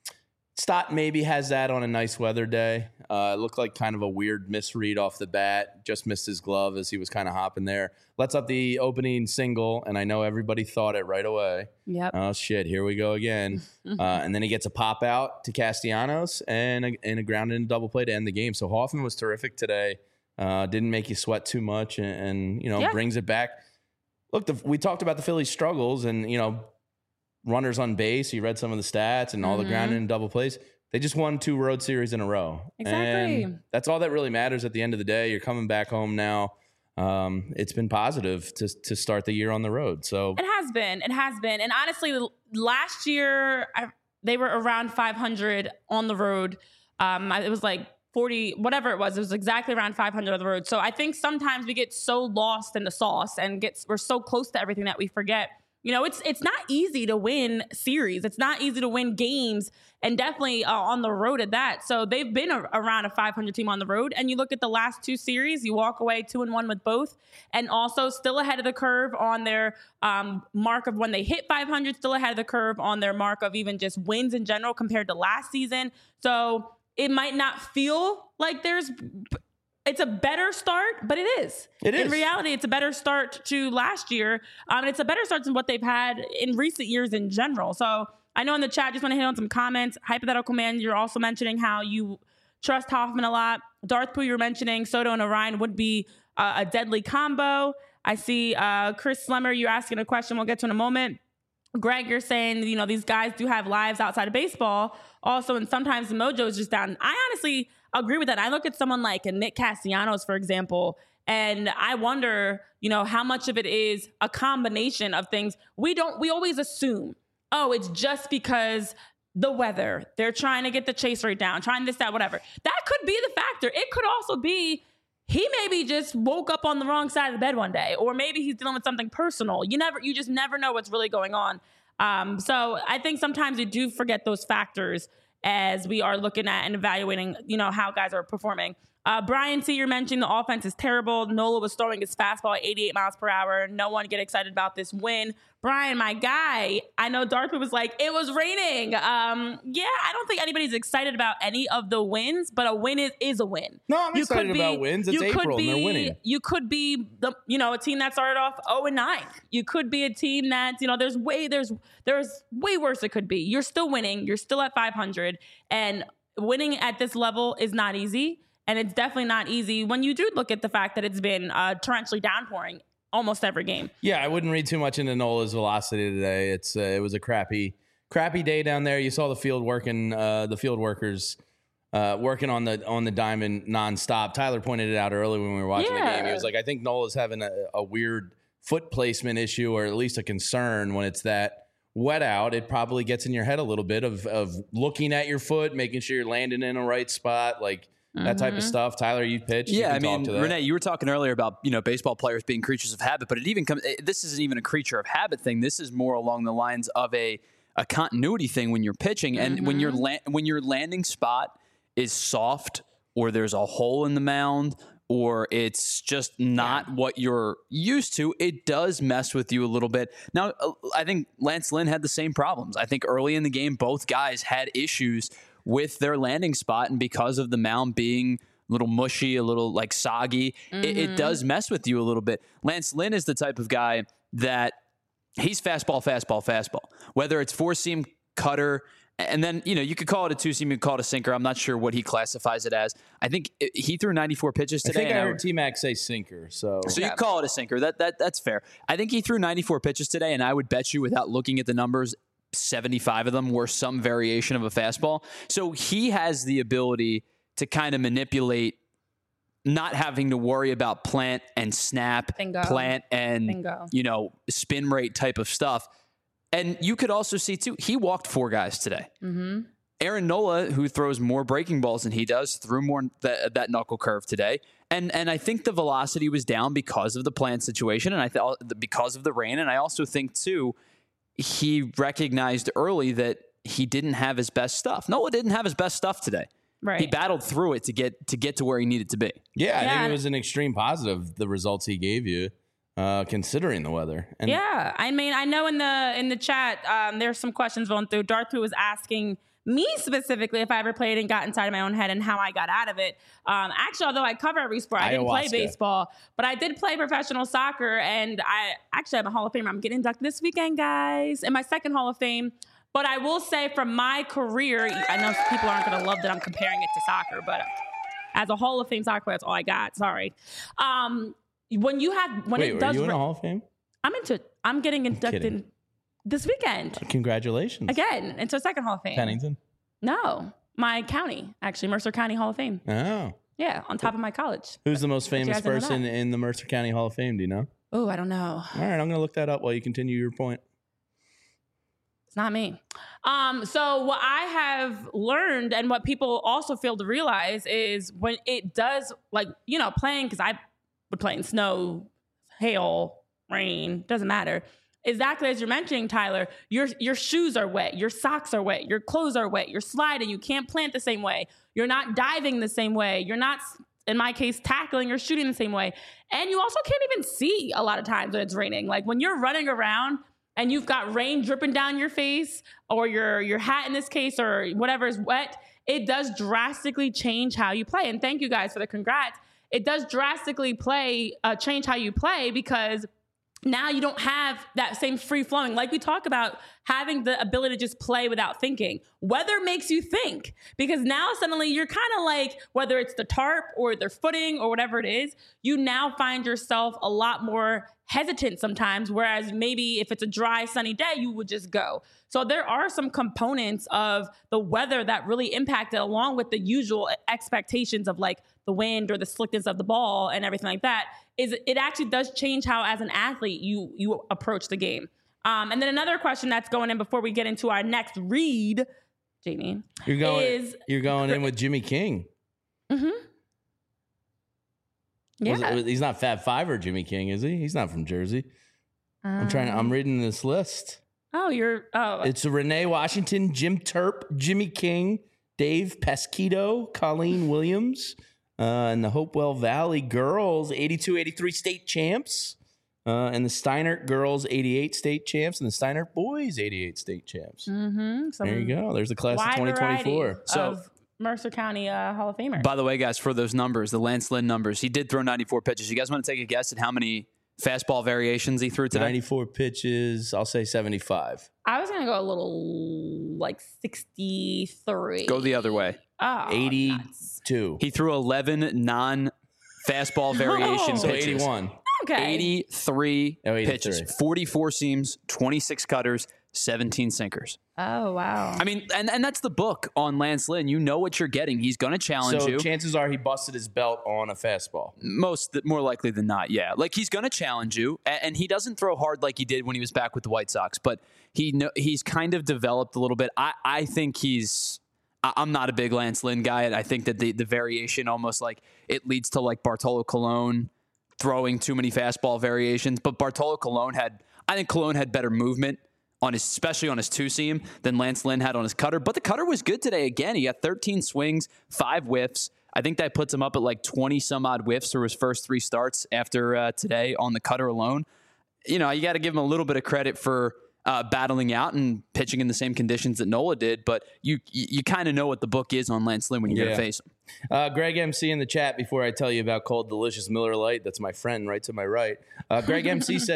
Stott maybe has that on a nice weather day. Uh, it looked like kind of a weird misread off the bat. Just missed his glove as he was kind of hopping there. Lets up the opening single, and I know everybody thought it right away. Yep. Oh, shit, here we go again. uh, and then he gets a pop out to Castellanos and a, and a ground in double play to end the game. So Hoffman was terrific today. Uh, didn't make you sweat too much and, and you know, yeah. brings it back. Look, the, we talked about the Phillies' struggles and, you know, runners on base. You read some of the stats and all mm-hmm. the grounded and double plays. They just won two road series in a row. Exactly. And that's all that really matters at the end of the day. You're coming back home now. Um, it's been positive to to start the year on the road. So it has been. It has been. And honestly, last year I, they were around five hundred on the road. Um, it was like forty, whatever it was. It was exactly around five hundred on the road. So I think sometimes we get so lost in the sauce and get we're so close to everything that we forget. You know, it's it's not easy to win series. It's not easy to win games, and definitely uh, on the road at that. So they've been a, around a five hundred team on the road. And you look at the last two series, you walk away two and one with both, and also still ahead of the curve on their um, mark of when they hit five hundred, still ahead of the curve on their mark of even just wins in general compared to last season. So it might not feel like there's... It's a better start, but it is. It is. In reality, it's a better start to last year. Um, and it's a better start than what they've had in recent years in general. So I know in the chat, just want to hit on some comments. Hypothetical Man, you're also mentioning how you trust Hoffman a lot. Darth Pooh, you're mentioning Soto and Orion would be uh, a deadly combo. I see uh, Chris Slemmer, you're asking a question we'll get to in a moment. Greg, you're saying, you know, these guys do have lives outside of baseball also, and sometimes the mojo is just down. I honestly agree with that. I look at someone like a Nick Castellanos, for example, and I wonder, you know, how much of it is a combination of things. We don't, we always assume, oh, it's just because the weather, they're trying to get the chase rate down, trying this, that, whatever. That could be the factor. It could also be he maybe just woke up on the wrong side of the bed one day, or maybe he's dealing with something personal. You never, you just never know what's really going on. Um, so I think sometimes we do forget those factors as we are looking at and evaluating, you know, how guys are performing. Uh, Brian C., you're mentioning the offense is terrible. Nola was throwing his fastball at eighty-eight miles per hour. No one get excited about this win. Brian, my guy, I know Darth was like, it was raining. Um, yeah, I don't think anybody's excited about any of the wins, but a win is, is a win. No, I'm you excited be, about wins. It's April be, and they're winning. You could be, the, you know, a team that started off oh and nine. You could be a team that, you know, there's way, there's, there's way worse it could be. You're still winning. You're still at five hundred. And winning at this level is not easy. And it's definitely not easy when you do look at the fact that it's been uh, torrentially downpouring almost every game. Yeah, I wouldn't read too much into Nola's velocity today. It's uh, it was a crappy, crappy day down there. You saw the field working, uh, the field workers uh, working on the on the diamond nonstop. Tyler pointed it out early when we were watching yeah. the game. He was like, I think Nola's having a, a weird foot placement issue, or at least a concern when it's that wet out. It probably gets in your head a little bit of of looking at your foot, making sure you're landing in the right spot, like. That type of stuff. Tyler, you pitched. Yeah, you I mean, Renee, you were talking earlier about, you know, baseball players being creatures of habit, but it even comes. This isn't even a creature of habit thing. This is more along the lines of a a continuity thing when you're pitching, and mm-hmm. when your la- when your landing spot is soft, or there's a hole in the mound, or it's just not yeah. what you're used to, it does mess with you a little bit. Now, I think Lance Lynn had the same problems. I think early in the game, both guys had issues with their landing spot, and because of the mound being a little mushy, a little like soggy, mm-hmm. it, it does mess with you a little bit. Lance Lynn is the type of guy that he's fastball, fastball, fastball. Whether it's four-seam, cutter, And then, you know, you could call it a two-seam, you could call it a sinker. I'm not sure what he classifies it as. I think it, he threw ninety-four pitches today. I think I and heard T-Mac say sinker. So, So Yeah. you call it a sinker. That that That's fair. I think he threw ninety-four pitches today, and I would bet you, without looking at the numbers, seventy-five of them were some variation of a fastball. So he has the ability to kind of manipulate not having to worry about plant and snap, Bingo. plant and, Bingo. you know, spin rate type of stuff. And you could also see, too, he walked four guys today. Mm-hmm. Aaron Nola, who throws more breaking balls than he does, threw more th- that knuckle curve today. And and I think the velocity was down because of the plant situation and I thought because of the rain. And I also think, too, he recognized early that he didn't have his best stuff. Nola didn't have his best stuff today. Right. He battled through it to get to get to where he needed to be. yeah, I Yeah, think and- it was an extreme positive, the results he gave you, uh, considering the weather. And Yeah, I mean, I know in the in the chat, um, there's some questions going through. Darth Pooh was asking me specifically if I ever played and got inside of my own head and how I got out of it. Um, actually, although I cover every sport, I didn't play Ayahuasca. baseball, but I did play professional soccer, and I actually am a Hall of Famer. I'm getting inducted this weekend, guys, in my second Hall of Fame. But I will say, from my career, I know people aren't going to love that I'm comparing it to soccer, but as a Hall of Fame soccer player, that's all I got. Sorry. Um, when you have when Wait, it were does, you in ra- a Hall of Fame? I'm into. I'm getting inducted kidding. this weekend Congratulations. again into a second Hall of Fame. Pennington. No, my county, actually, Mercer County Hall of Fame. Oh. Yeah, on top of my college. Who's the most you famous guys didn't know person that. in the Mercer County Hall of Fame? Do you know? Oh, I don't know. All right, I'm going to look that up while you continue your point. It's not me. Um, so what I have learned and what people also fail to realize is when it does, like, you know, playing, because I would play in snow, hail, rain, doesn't matter. Exactly as you're mentioning, Tyler, your your shoes are wet, your socks are wet, your clothes are wet, you're sliding, you can't plant the same way, you're not diving the same way, you're not, in my case, tackling or shooting the same way. And you also can't even see a lot of times when it's raining. Like when you're running around and you've got rain dripping down your face, or your your hat in this case, or whatever is wet, it does drastically change how you play. And thank you guys for the congrats. It does drastically play, uh, change how you play, because now you don't have that same free flowing. Like we talk about having the ability to just play without thinking. Weather makes you think, because now suddenly you're kind of like, whether it's the tarp or the footing or whatever it is, you now find yourself a lot more hesitant sometimes. Whereas maybe if it's a dry, sunny day, you would just go. So there are some components of the weather that really impact it, along with the usual expectations of like the wind or the slickness of the ball and everything like that. Is it actually does change how, as an athlete, you you approach the game. Um, and then another question that's going in before we get into our next read, Jamie, You're going. is you're going in with Jimmy King. mm-hmm. Was Yeah, it- he's not Fab Five or Jimmy King, is he? He's not from Jersey. I'm trying. To, I'm reading this list. Oh, you're. Oh, It's Renee Washington, Jim Turp, Jimmy King, Dave Pesquito, Colleen Williams, uh, and the Hopewell Valley girls, eighty-two eighty-three state champs, uh, and the Steinert girls, eighty-eight state champs, and the Steinert boys, eighty-eight state champs. mm-hmm. Some There you go. There's the class of wide twenty twenty-four. variety So- of Mercer County uh, Hall of Famer. By the way, guys, for those numbers, the Lance Lynn numbers, he did throw ninety-four pitches. You guys want to take a guess at how many fastball variations he threw today? ninety-four pitches. I'll say seventy-five. I was gonna go a little like sixty-three. Go the other way. Oh, nuts. eighty-two. He threw eleven non-fastball variation So pitches. eighty-one. Okay. eighty-three Oh, eighty-three. pitches, forty-four seams, twenty-six cutters, seventeen sinkers. Oh wow. I mean, and, and that's the book on Lance Lynn. You know what you're getting. He's going to challenge So you. chances are he busted his belt on a fastball. Most more likely than not, yeah. Like he's going to challenge you, and, and he doesn't throw hard like he did when he was back with the White Sox. But he know, he's kind of developed a little bit. I, I think he's. I, I'm not a big Lance Lynn guy. I think that the the variation almost like it leads to like Bartolo Colon throwing too many fastball variations. But Bartolo Colon had. I think Colon had better movement on his, especially on his two seam, than Lance Lynn had on his cutter. But the cutter was good today. Again, he got thirteen swings, five whiffs. I think that puts him up at like twenty some odd whiffs for his first three starts after uh, today on the cutter alone. You know, you got to give him a little bit of credit for uh, battling out and pitching in the same conditions that Nola did. But you you, you kind of know what the book is on Lance Lynn when you're Yeah. going to face him. Uh, Greg M C in the chat before I tell you about Cold Delicious Miller Lite. That's my friend right to my right. Uh, Greg M C says,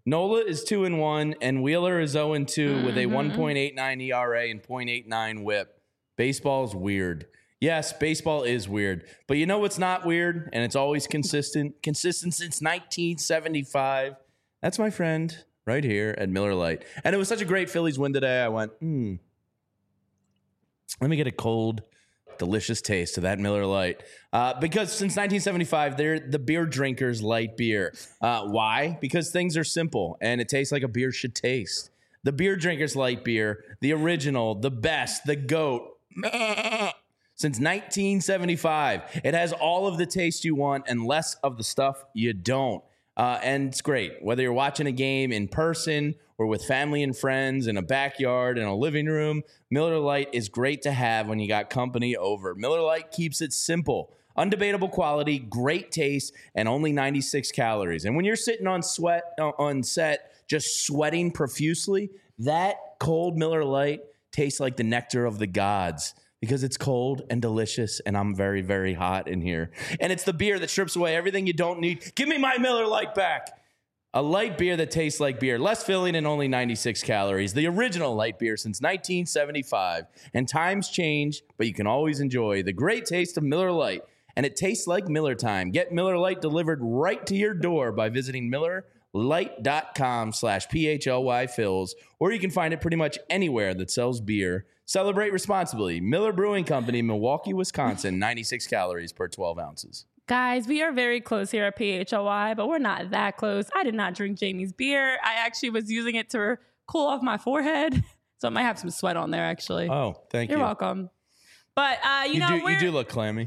Nola is two and one, and Wheeler is zero and two Mm-hmm. with a one point eight nine E R A and point eight nine WHIP. Baseball's weird. Yes, baseball is weird, but you know what's not weird, and it's always consistent. Consistent since nineteen seventy-five. That's my friend right here at Miller Lite, and it was such a great Phillies win today. I went, hmm. Let me get a cold, delicious taste of that Miller Lite. Uh, because since nineteen seventy-five, they're the beer drinkers' light beer. Uh, why? Because things are simple, and it tastes like a beer should taste. The beer drinkers' light beer, the original, the best, the GOAT. Since nineteen seventy-five, it has all of the taste you want and less of the stuff you don't. Uh, and it's great. Whether you're watching a game in person or with family and friends in a backyard, in a living room, Miller Lite is great to have when you got company over. Miller Lite keeps it simple. Undebatable quality, great taste, and only ninety-six calories. And when you're sitting on sweat on set, just sweating profusely, that cold Miller Lite tastes like the nectar of the gods. Because it's cold and delicious, and I'm very, very hot in here. And it's the beer that strips away everything you don't need. Give me my Miller Lite back. A light beer that tastes like beer. Less filling and only ninety-six calories. The original light beer since nineteen seventy-five. And times change, but you can always enjoy the great taste of Miller Lite. And it tastes like Miller time. Get Miller Lite delivered right to your door by visiting MillerLite.com slash PHLY Phils. Or you can find it pretty much anywhere that sells beer. Celebrate responsibly. Miller Brewing Company, Milwaukee, Wisconsin, ninety-six calories per twelve ounces. Guys, we are very close here at P H L Y, but we're not that close. I did not drink Jamie's beer. I actually was using it to cool off my forehead, so I might have some sweat on there, actually. Oh, thank You're you. You're welcome. But, uh, you, you know, do, we're, you do look clammy.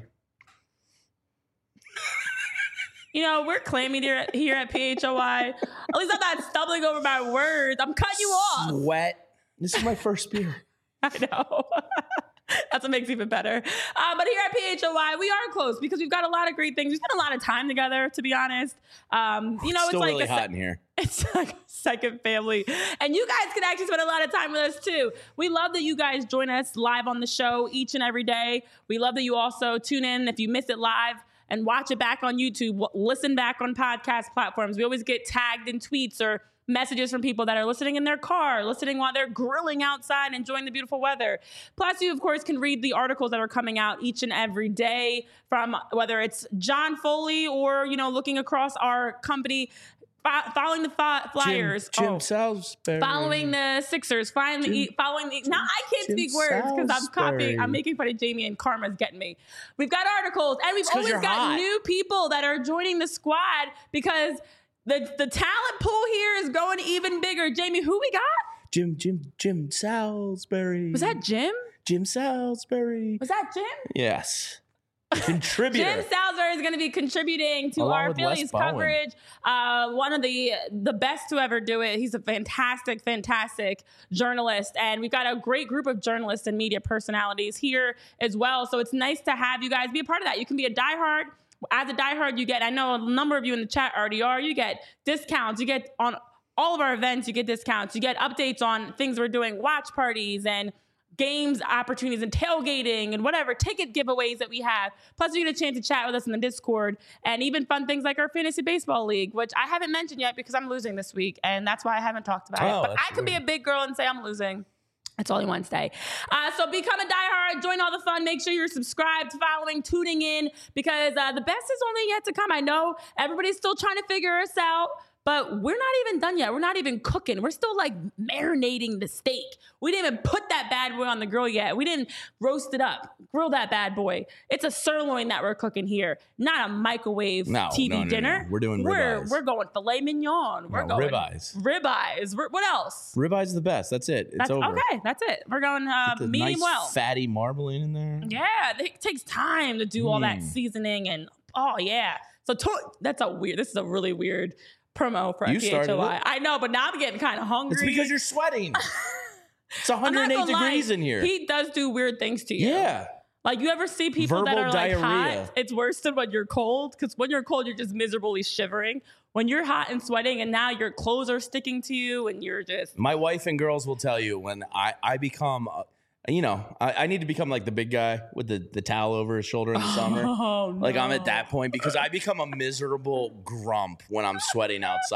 You know, we're clammy here, here at P H L Y. At least I'm not stumbling over my words. I'm cutting you off. Sweat. This is my first beer. I know. That's what makes it even better. Uh, but here at P H L Y, we are close because we've got a lot of great things. We spent a lot of time together, to be honest. Um, you know, it's, it's still like really a, hot in here. It's like a second family. And you guys can actually spend a lot of time with us too. We love that you guys join us live on the show each and every day. We love that you also tune in if you miss it live and watch it back on YouTube, listen back on podcast platforms. We always get tagged in tweets or messages from people that are listening in their car, listening while they're grilling outside, enjoying the beautiful weather. Plus, you, of course, can read the articles that are coming out each and every day from whether it's John Foley or, you know, looking across our company, following the Flyers. Jim, Jim oh, Salisbury. Following the Sixers. Finally, Jim, following the... Now, I can't Jim speak words because I'm copying. Salisbury. I'm making fun of Jamie and Karma's getting me. We've got articles, and we've 'cause always you're got hot. new people that are joining the squad because... The the talent pool here is going even bigger. Jamie, who we got? Jim, Jim, Jim Salisbury. Was that Jim? Jim Salisbury. Was that Jim? Yes. Contributor. Jim Salisbury is going to be contributing to Along our with Les Phillies Bowen. coverage. Uh, one of the the best to ever do it. He's a fantastic, fantastic journalist. And we've got a great group of journalists and media personalities here as well. So it's nice to have you guys be a part of that. You can be a diehard. As a diehard, you get, I know a number of you in the chat already are, you get discounts. You get on all of our events, you get discounts. You get updates on things we're doing, watch parties and games opportunities and tailgating and whatever, ticket giveaways that we have. Plus, you get a chance to chat with us in the Discord and even fun things like our fantasy baseball league, which I haven't mentioned yet because I'm losing this week. And that's why I haven't talked about Oh, it. But that's I can be a big girl and say I'm losing. It's only Wednesday. Uh, so become a diehard, join all the fun. Make sure you're subscribed, following, tuning in, because uh, the best is only yet to come. I know everybody's still trying to figure us out, but we're not even done yet. We're not even cooking. We're still like marinating the steak. We didn't even put that bad boy on the grill yet. We didn't roast it up, grill that bad boy. It's a sirloin that we're cooking here, not a microwave No, T V no, no, dinner. no. We're doing we're, ribeyes. We're going filet mignon. We're No, going ribeyes. Ribeyes. We're- What else? Ribeyes is the best. That's it. It's That's over. okay. That's it. We're going uh, The medium nice well. fatty marbling in there. Yeah, it takes time to do all that Mm. seasoning and oh yeah. So to- that's a weird. This is a really weird promo for You P H started L Y. it. I know, but now I'm getting kind of hungry. It's because you're sweating. It's I'm not one hundred eight gonna lie, degrees in here. He does do weird things to you. Yeah. Like you ever see people that Verbal are like diarrhea. hot? It's worse than when you're cold because when you're cold, you're just miserably shivering. When you're hot and sweating, and now your clothes are sticking to you, and you're just My wife and girls will tell you when I, I become, uh, you know, I, I need to become like the big guy with the, the towel over his shoulder in the summer. oh no. Like I'm at that point because I become a miserable grump when I'm sweating outside.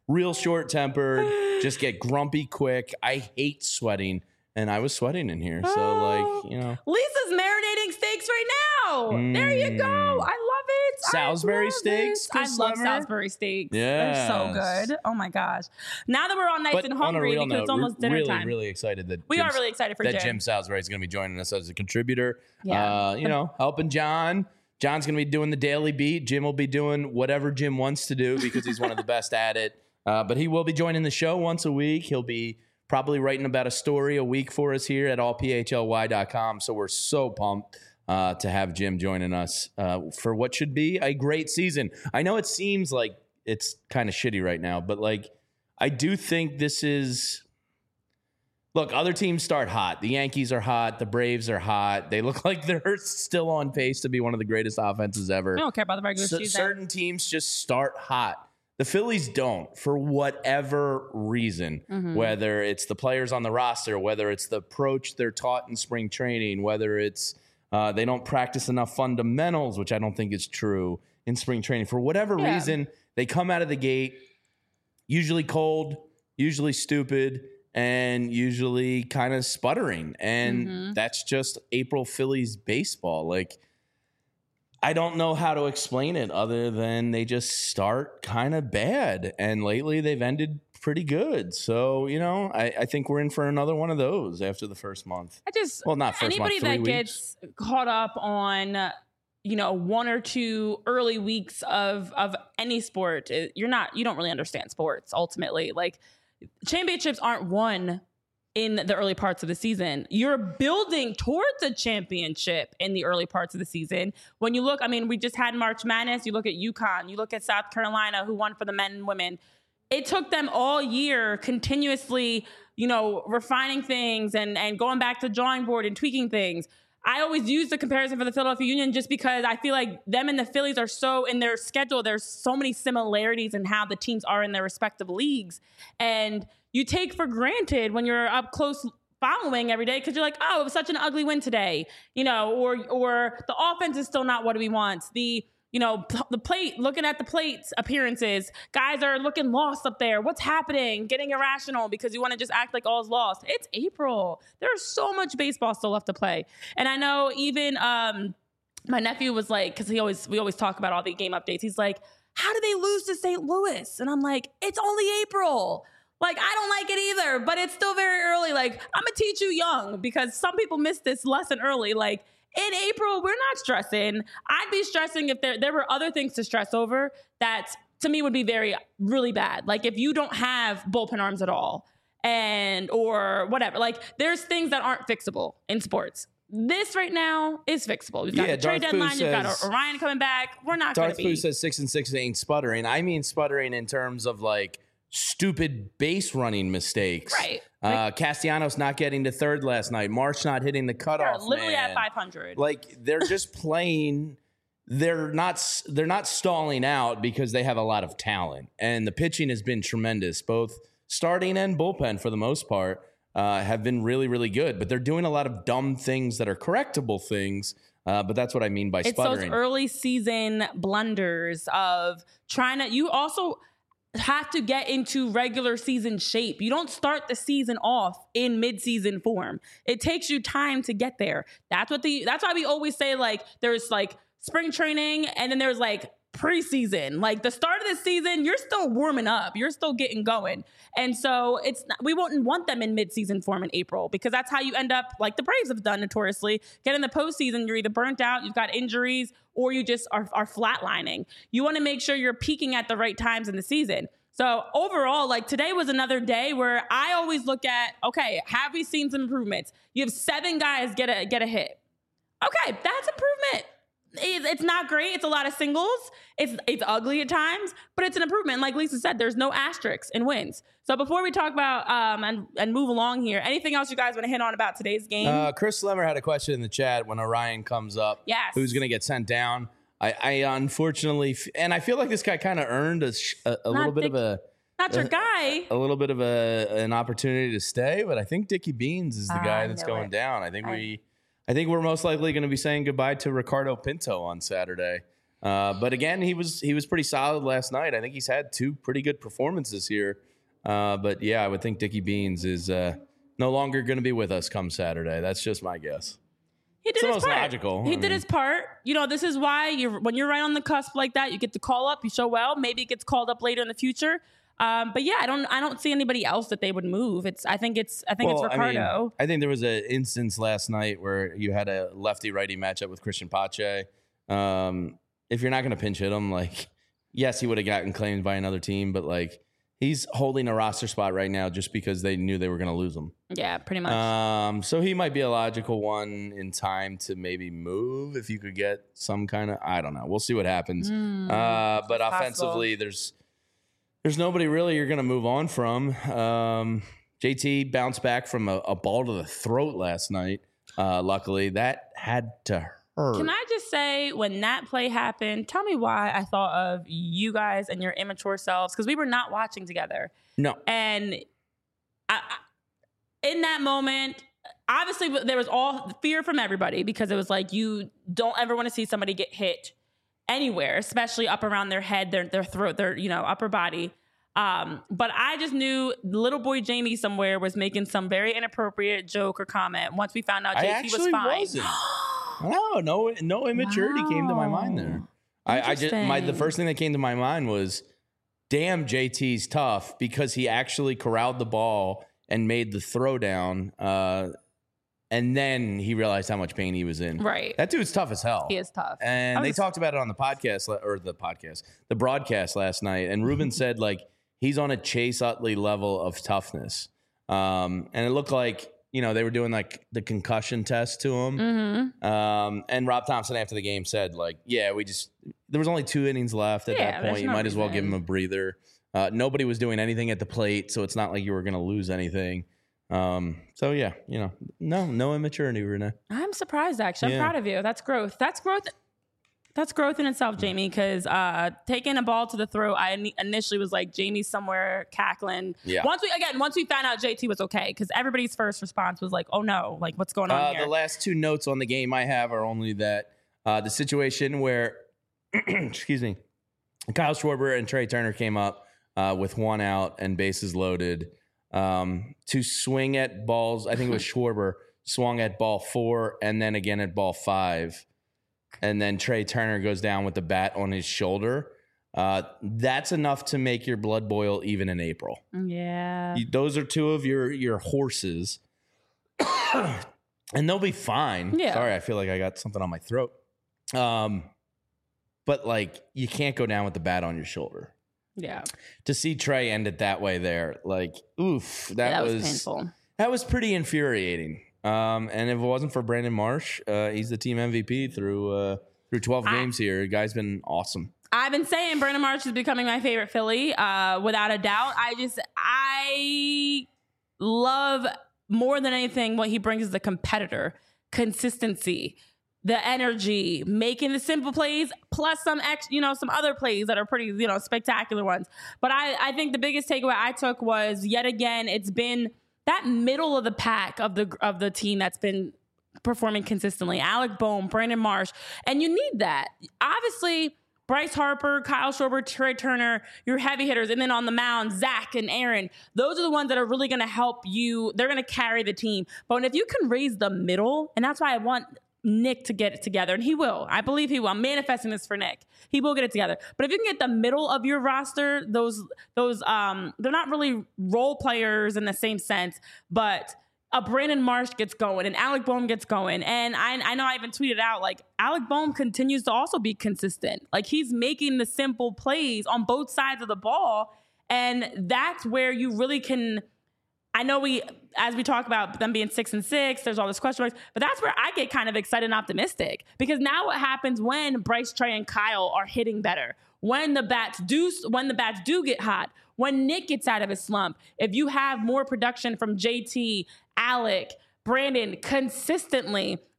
real short tempered, just get grumpy quick. I hate sweating, and I was sweating in here. So, Oh. like, you know. Lisa's marinating steaks right now. There you go. I love it. Salisbury I love steaks, it. I Chris love Summer? Salisbury steaks. They're so Yes. good. Oh my gosh. Now that we're all nice But and on a hungry real because note, it's almost dinner really, time. really excited that We are Jim's- really excited for that Jim. Jim Salisbury is going to be joining us as a contributor. Yeah. Uh, you know, helping John. John's going to be doing the daily beat. Jim will be doing whatever Jim wants to do because he's one of the best at it. Uh, but he will be joining the show once a week. He'll be probably writing about a story a week for us here at all p h l y dot com. So we're so pumped uh, to have Jim joining us uh, for what should be a great season. I know it seems like it's kind of shitty right now, but like I do think this is. Look, other teams start hot. The Yankees are hot. The Braves are hot. They look like they're still on pace to be one of the greatest offenses ever. We don't care about the regular So- season. certain teams just start hot. The Phillies don't, for whatever reason, Mm-hmm. whether it's the players on the roster, whether it's the approach they're taught in spring training, whether it's uh, they don't practice enough fundamentals, which I don't think is true in spring training. For whatever Yeah. reason, they come out of the gate usually cold, usually stupid, and usually kind of sputtering. And Mhm. that's just April Phillies baseball. Like, I don't know how to explain it other than they just start kind of bad. And lately they've ended pretty good. So, you know, I, I think we're in for another one of those after the first month. I just Well, not first anybody month, three that weeks. gets caught up on uh, you know one or two early weeks of of any sport, uh, you're not you don't really understand sports ultimately. Like championships aren't won in the early parts of the season. You're building towards a championship in the early parts of the season. When you look, I mean, we just had March Madness. You look at UConn, you look at South Carolina, who won for the men and women. It took them all year continuously, you know, refining things and, and going back to the drawing board and tweaking things. I always use the comparison for the Philadelphia Union just because I feel like them and the Phillies are so in their schedule. There's so many similarities in how the teams are in their respective leagues. And you take for granted when you're up close following every day because you're like, oh, it was such an ugly win today, you know, or or the offense is still not what we want. The You know, p- the plate, looking at the plate appearances, guys are looking lost up there. What's happening? Getting irrational because you want to just act like all's lost. It's April. There's so much baseball still left to play. And I know even um, my nephew was like, because he always we always talk about all the game updates. He's like, how did they lose to Saint Louis? And I'm like, it's only April. Like, I don't like it either, but it's still very early. Like, I'm going to teach you young because some people miss this lesson early. Like, in April, we're not stressing. I'd be stressing if there, there were other things to stress over that, to me, would be very, really bad. Like, if you don't have bullpen arms at all and or whatever. Like, there's things that aren't fixable in sports. This right now is fixable. We've got Yeah, the trade Darth Pooh deadline. You've got says- Orion coming back. We're not going Darth to Pooh be. says six and six ain't sputtering. I mean sputtering in terms of like stupid base running mistakes. Right. Uh, Castellanos not getting to third last night. March not hitting the They're cutoff. literally man. at five hundred. Like they're just playing. They're not. s- They're not stalling out because they have a lot of talent, and the pitching has been tremendous. Both starting and bullpen, for the most part, uh, have been really, really good. But they're doing a lot of dumb things that are correctable things. Uh, but that's what I mean by It's sputtering. those early season blunders of trying to, you also have to get into regular season shape. You don't start the season off in mid-season form. It takes you time to get there. That's what the, that's why we always say like, there's like spring training and then there's like preseason. Like the start of the season, you're still warming up. You're still getting going. And so it's not, we wouldn't want them in mid-season form in April because that's how you end up, like the Braves have done notoriously. Get in the postseason, you're either burnt out, you've got injuries, or you just are, are flatlining. You want to make sure you're peaking at the right times in the season. So overall, like today was another day where I always look at, okay, have we seen some improvements? You have seven guys get a get a hit. Okay, that's improvement. It's it's not great. It's a lot of singles. It's it's ugly at times, but it's an improvement. Like Lisa said, there's no asterisks in wins. So before we talk about um and, and move along here, anything else you guys want to hit on about today's game? Uh, Chris Slemmer had a question in the chat when Orion comes up. Yes. Who's going to get sent down? I, I unfortunately, f- and I feel like this guy kind of earned a, sh- a, a little bit Dick- of a Not your uh, guy. a little bit of a an opportunity to stay, but I think Dickie Beans is the I guy that's knew going it. down. I think I- we, I think we're most likely going to be saying goodbye to Ricardo Pinto on Saturday. Uh, but again, he was he was pretty solid last night. I think he's had two pretty good performances here. Uh, but yeah, I would think Dickie Beans is uh, no longer going to be with us come Saturday. That's just my guess. He did it's his most part. logical. He I did mean. his part. You know, this is why you're when you're right on the cusp like that, you get to call up. You show well. Maybe it gets called up later in the future. Um, but yeah, I don't I don't see anybody else that they would move. It's I think it's I think Well, it's I mean, Ricardo. I think there was an instance last night where you had a lefty-righty matchup with Christian Pache. Um, if you're not going to pinch hit him, like, yes, he would have gotten claimed by another team, but like he's holding a roster spot right now just because they knew they were going to lose him. Yeah, pretty much. Um, so he might be a logical one in time to maybe move if you could get some kind of, I don't know. We'll see what happens. Mm, uh, but possible. offensively, there's there's nobody really you're going to move on from. Um, J T bounced back from a, a ball to the throat last night. Uh, luckily, that had to hurt. Can I just say, when that play happened, tell me why I thought of you guys and your immature selves, because we were not watching together. No. And I, I, in that moment, obviously there was all fear from everybody because it was like, you don't ever want to see somebody get hit anywhere, especially up around their head, their their throat, their, you know, upper body. Um, but I just knew little boy Jamie somewhere was making some very inappropriate joke or comment once we found out I J T actually was fine. wasn't. No, no, no immaturity Wow. came to my mind there. I, I just my the Interesting. first thing that came to my mind was, damn, J T's tough because he actually corralled the ball and made the throw down, uh, and then he realized how much pain he was in. Right. That dude's tough as hell. He is tough. And I they was- talked about it on the podcast la- or the podcast, the broadcast last night. And Ruben said like he's on a Chase Utley level of toughness. Um, and it looked like, you know, they were doing like the concussion test to him. Mm-hmm. Um, and Rob Thompson after the game said like, yeah, we just, there was only two innings left at Yeah, that there's point. You no might as well give reason. him a breather. Uh, nobody was doing anything at the plate. So it's not like you were going to lose anything. Um, so yeah, you know, no, no immaturity, Renee. I'm surprised, actually. I'm Yeah. proud of you. That's growth. That's growth. That's growth in itself, Jamie, because uh, taking a ball to the throat, I ini- initially was like, Jamie's somewhere cackling. Yeah. Once we, again, once we found out J T was okay, because everybody's first response was like, oh no, like what's going on Uh, here? the last two notes on the game I have are only that uh, the situation where, excuse me, Kyle Schwarber and Trey Turner came up uh, with one out and bases loaded um, to swing at balls. I think it was Schwarber swung at ball four and then again at ball five. And then Trey Turner goes down with the bat on his shoulder. Uh, that's enough to make your blood boil even in April. yeah. You- those are two of your your horses, and they'll be fine. Yeah. Sorry, I feel like I got something on my throat. Um, but like you can't go down with the bat on your shoulder. Yeah. To see Trey end it that way, there, like, oof, that, Yeah, that was, was painful. that was pretty infuriating. Um, and if it wasn't for Brandon Marsh, uh, he's the team M V P through uh, through twelve I- games here. The guy's been awesome. I've been saying Brandon Marsh is becoming my favorite Philly, uh, without a doubt. I just, I love more than anything what he brings as a competitor, consistency, the energy, making the simple plays, plus some ex, you know, some other plays that are pretty, you know, spectacular ones. But I, I think the biggest takeaway I took was yet again, it's been that middle of the pack of the of the team that's been performing consistently. Alec Bohm, Brandon Marsh, and you need that. Obviously, Bryce Harper, Kyle Schwarber, Trey Turner, your heavy hitters, and then on the mound, Zach and Aaron. Those are the ones that are really going to help you. They're going to carry the team. But if you can raise the middle, and that's why I want Nick to get it together, and he will. I believe he will. I'm manifesting this for Nick. He will get it together. But if you can get the middle of your roster, those those um, they're not really role players in the same sense, but a Brandon Marsh gets going and Alec Bohm gets going. And I, I know I even tweeted out, like, Alec Bohm continues to also be consistent. Like, he's making the simple plays on both sides of the ball. And that's where you really can, I know we, as we talk about them being six and six, there's all this question marks, but that's where I get kind of excited and optimistic. Because now what happens when Bryce, Trey, and Kyle are hitting better? When the bats do, when the bats do get hot, when Nick gets out of his slump, if you have more production from J T, Alec, Brandon consistently,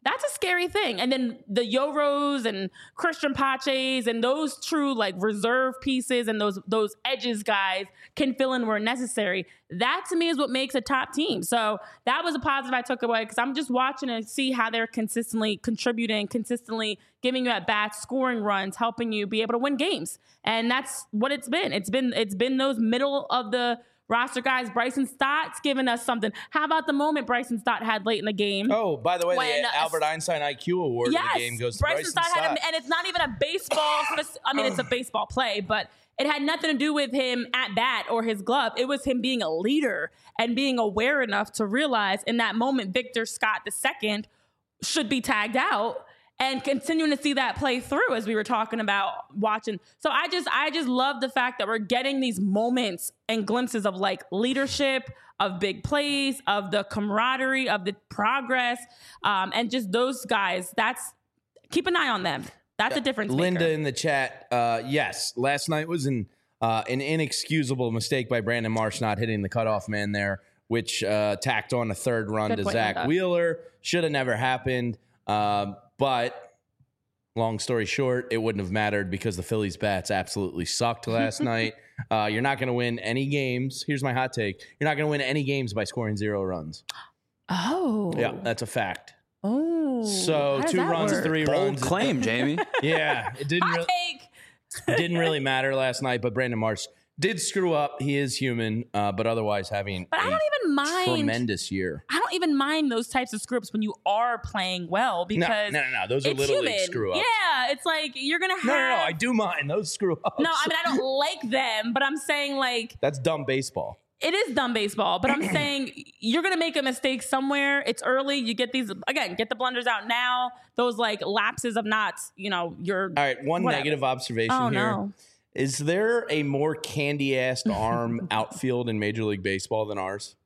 That's a scary thing. And then the Yoros and Christian Paches and those true like reserve pieces and those those edges guys can fill in where necessary. That to me is what makes a top team. So that was a positive I took away because I'm just watching and see how they're consistently contributing, consistently giving you at bats, scoring runs, helping you be able to win games. And that's what it's been. It's been it's been those middle of the roster guys. Bryson Stott's giving us something. How about the moment Bryson Stott had late in the game? Oh, by the way, When, the uh, Albert Einstein I Q award Yes, of the game goes to Bryson, Bryson Stott, Stott. had a, and it's not even a baseball. spec- I mean, it's a baseball play, but it had nothing to do with him at bat or his glove. It was him being a leader and being aware enough to realize in that moment Victor Scott the second should be tagged out. And continuing to see that play through as we were talking about watching. So I just I just love the fact that we're getting these moments and glimpses of like leadership, of big plays, of the camaraderie, of the progress, um, and just those guys. That's keep an eye on them. That's a difference maker. Linda in the chat, uh, yes, last night was an uh, an inexcusable mistake by Brandon Marsh not hitting the cutoff man there, which uh, tacked on a third run Good to point, Zach Linda. Wheeler. Should have never happened. Um, But long story short, it wouldn't have mattered because the Phillies bats absolutely sucked last night. Uh, you're not going to win any games. Here's my hot take. You're not going to win any games by scoring zero runs. Oh. Yeah, that's a fact. Oh. So How does two that runs, work? three Bold runs. claim, Jamie. Yeah, it didn't Hot really, take. didn't really matter last night, but Brandon Marsh did screw up. He is human, uh, but otherwise having But I a don't even mind. tremendous year. I don't even mind those types of scripts when you are playing well No, because no, no, no. Those are it's little human. league screw ups. Yeah, it's like you're gonna have. No, no, no. I do mind those screw ups. No, I mean I don't like them, but I'm saying like That's dumb baseball. it is dumb baseball. But I'm saying you're gonna make a mistake somewhere. It's early. You get these again. Get the blunders out now. Those like lapses of not, you know, your. All right, one Whatever. negative observation Oh here. no. Is there a more candy-assed arm outfield in Major League Baseball than ours?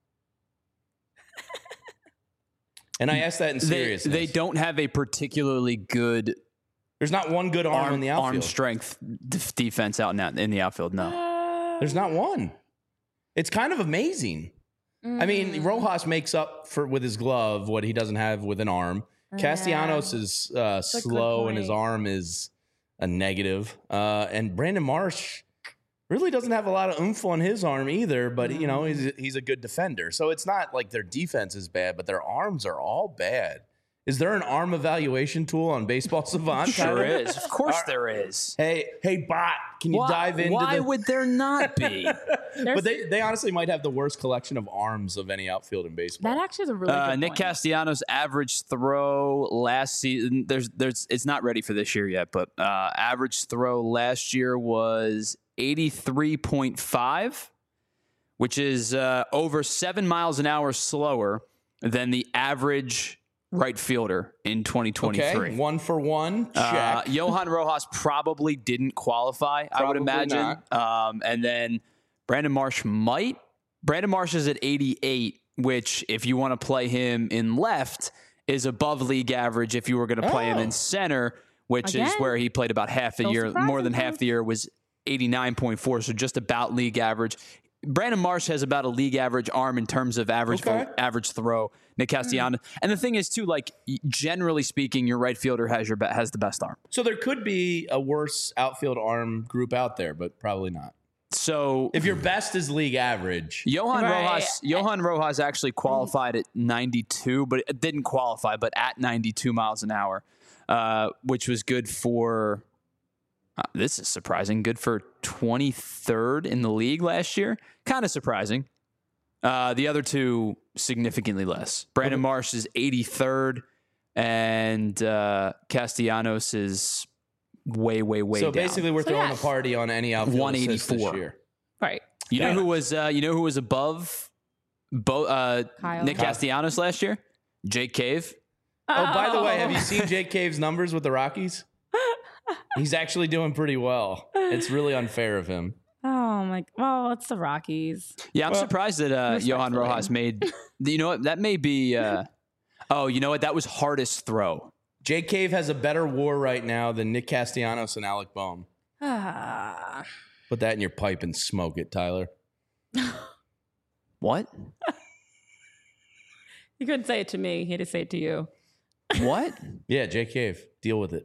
And I ask that in they, seriousness. they don't have a particularly good There's not one good arm, in arm, the outfield. arm strength def- defense out in, that, in the outfield. No. There's not one. It's kind of amazing. I mean, Rojas makes up for with his glove what he doesn't have with an arm. Castellanos is uh, a good slow and his point. arm is a negative. Uh, and Brandon Marsh really doesn't have a lot of oomph on his arm either, but you know, he's he's a good defender. So it's not like their defense is bad, but their arms are all bad. Is there an arm evaluation tool on Baseball Savant? Sure Tyler? is. Of course there is. Hey, hey, bot, can you Why, dive into why the... would there not be? But they, they honestly might have the worst collection of arms of any outfield in baseball. That actually is a really Uh, good Nick point. Castellanos' average throw last season. There's, there's, it's not ready for this year yet, but uh, average throw last year was eighty-three point five, which is uh, over seven miles an hour slower than the average right fielder in twenty twenty-three. Okay, one for one, check. Uh, Johan Rojas probably didn't qualify, I would Probably imagine. Um, and then Brandon Marsh might. Brandon Marsh is at eighty-eight, which, if you want to play him in left, is above league average if you were going to play him Oh. in center, which is Again, where he played about half the no year. More than surprises. half the year was eighty-nine point four, so just about league average. Brandon Marsh has about a league average arm in terms of average Okay. average throw. Nick Castellanos, and the thing is too, like generally speaking, your right fielder has your be- has the best arm. So there could be a worse outfield arm group out there, but probably not. So If your best is league average, Johan Right. Rojas, Johan Rojas actually qualified at ninety-two, but it didn't qualify, but at ninety-two miles an hour, uh, which was good for. Uh, this is surprising. Good for twenty-third in the league last year. Kind of surprising. Uh, the other two significantly less. Brandon Marsh is eighty-third, and uh, Castellanos is way, way, way so down. basically we're So throwing yes. a party on any outfield assist this one eighty-four. year. Right. You know Yeah. who was uh, you know who was above Bo, uh, Kyle. Nick Kyle. Castellanos last year? Jake Cave. Oh, by the way, have you seen Jake Cave's numbers with the Rockies? He's actually doing pretty well. It's really unfair of him. Oh my! Well, it's the Rockies. Yeah, I'm Well, surprised that uh, Johan respectfully. Rojas made. You know what? That may be. Uh, oh, you know what? That was hardest throw. Jake Cave has a better WAR right now than Nick Castellanos and Alec Boehm. Ah. Put that in your pipe and smoke it, Tyler. What? He couldn't say it to me. He had to say it to you. What? Yeah, Jay Cave. Deal with it.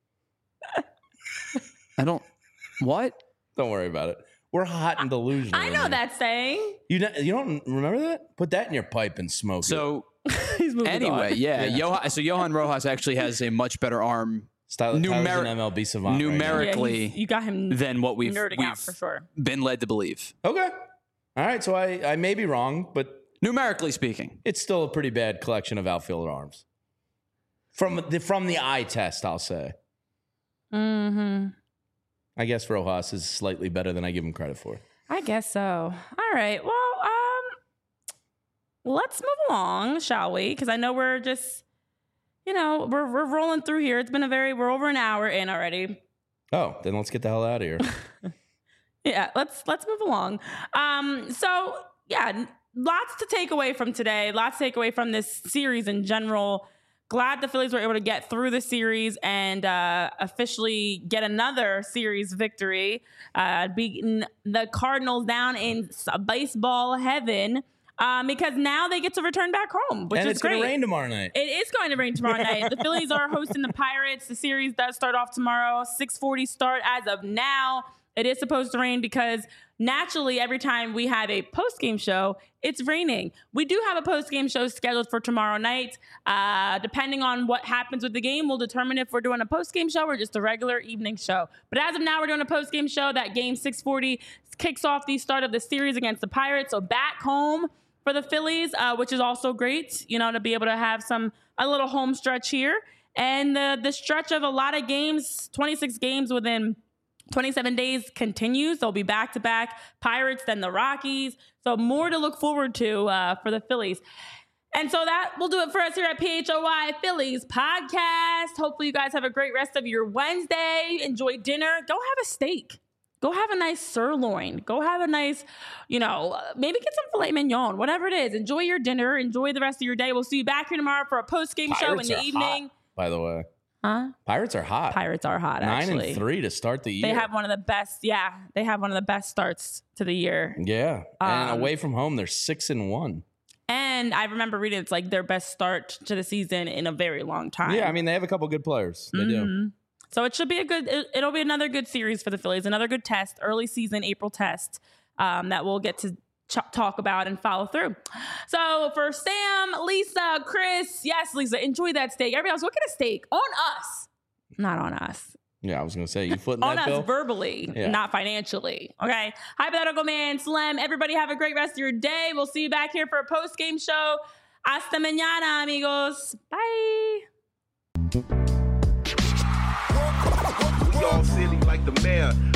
I don't. What? Don't worry about it. We're hot and delusional. I know that saying. You don't, you don't remember that? Put that in your pipe and smoke So He's moving anyway, on. yeah. Yeah. Johan, so Johan Rojas actually has a much better arm it. Tyler, numer- Tyler's an M L B savant. numeric- Right Yeah, Directly he's- you got him than what we've, nerding we've out for sure. been led to believe. now. Okay. All right. So I, I may be wrong, but Numerically speaking. it's still a pretty bad collection of outfielder arms. From the from the eye test, I'll say. Mm-hmm. I guess Rojas is slightly better than I give him credit for. I guess so. All right. Well, um, let's move along, shall we? Because I know we're just, you know, we're we're rolling through here. It's been a very we're over an hour in already. Oh, then let's get the hell out of here. Yeah, let's let's move along. Um, so yeah, lots to take away from today. Lots to take away from this series in general. Glad the Phillies were able to get through the series and uh, officially get another series victory, uh, beating the Cardinals down in s- baseball heaven. Um, because now they get to return back home, which and is it's great. going to rain tomorrow night. It is going to rain tomorrow night. The Phillies are hosting the Pirates. The series does start off tomorrow. six forty start as of now. It is supposed to rain because naturally every time we have a post-game show, it's raining. We do have a post-game show scheduled for tomorrow night. Uh, depending on what happens with the game, we'll determine if we're doing a post-game show or just a regular evening show. But as of now, we're doing a post-game show. That game six forty kicks off the start of the series against the Pirates. So back home for the Phillies, uh, which is also great, you know, to be able to have some a little home stretch here. And the the stretch of a lot of games, twenty-six games within twenty-seven days continues. They'll be back-to-back Pirates, then the Rockies. So more to look forward to uh, for the Phillies. And so that will do it for us here at P H O Y Phillies Podcast. Hopefully you guys have a great rest of your Wednesday. Enjoy dinner. Go have a steak. Go have a nice sirloin. Go have a nice, you know, maybe get some filet mignon, whatever it is. Enjoy your dinner. Enjoy the rest of your day. We'll see you back here tomorrow for a post-game show in Pirates the are evening. hot, by the way. Huh? Pirates are hot. Pirates are hot, Nine actually. and three to start the year. They have one of the best, yeah, they have one of the best starts to the year. Yeah. And Um, away from home, they're six and one. And I remember reading it's like their best start to the season in a very long time. Yeah, I mean, they have a couple good players. They do. Mhm. So it should be a good, it, it'll be another good series for the Phillies, another good test, early season April test um, that we'll get to ch- talk about and follow through. So for Sam, Lisa, Chris, yes, Lisa, enjoy that steak. Everybody else, look at a steak on us, not on us. Yeah, I was going to say, you footing On that, us Bill? verbally, Yeah. not financially. Okay. Hypothetical Man, Slim, everybody have a great rest of your day. We'll see you back here for a post-game show. Hasta mañana, amigos. Bye. We all silly like the mayor.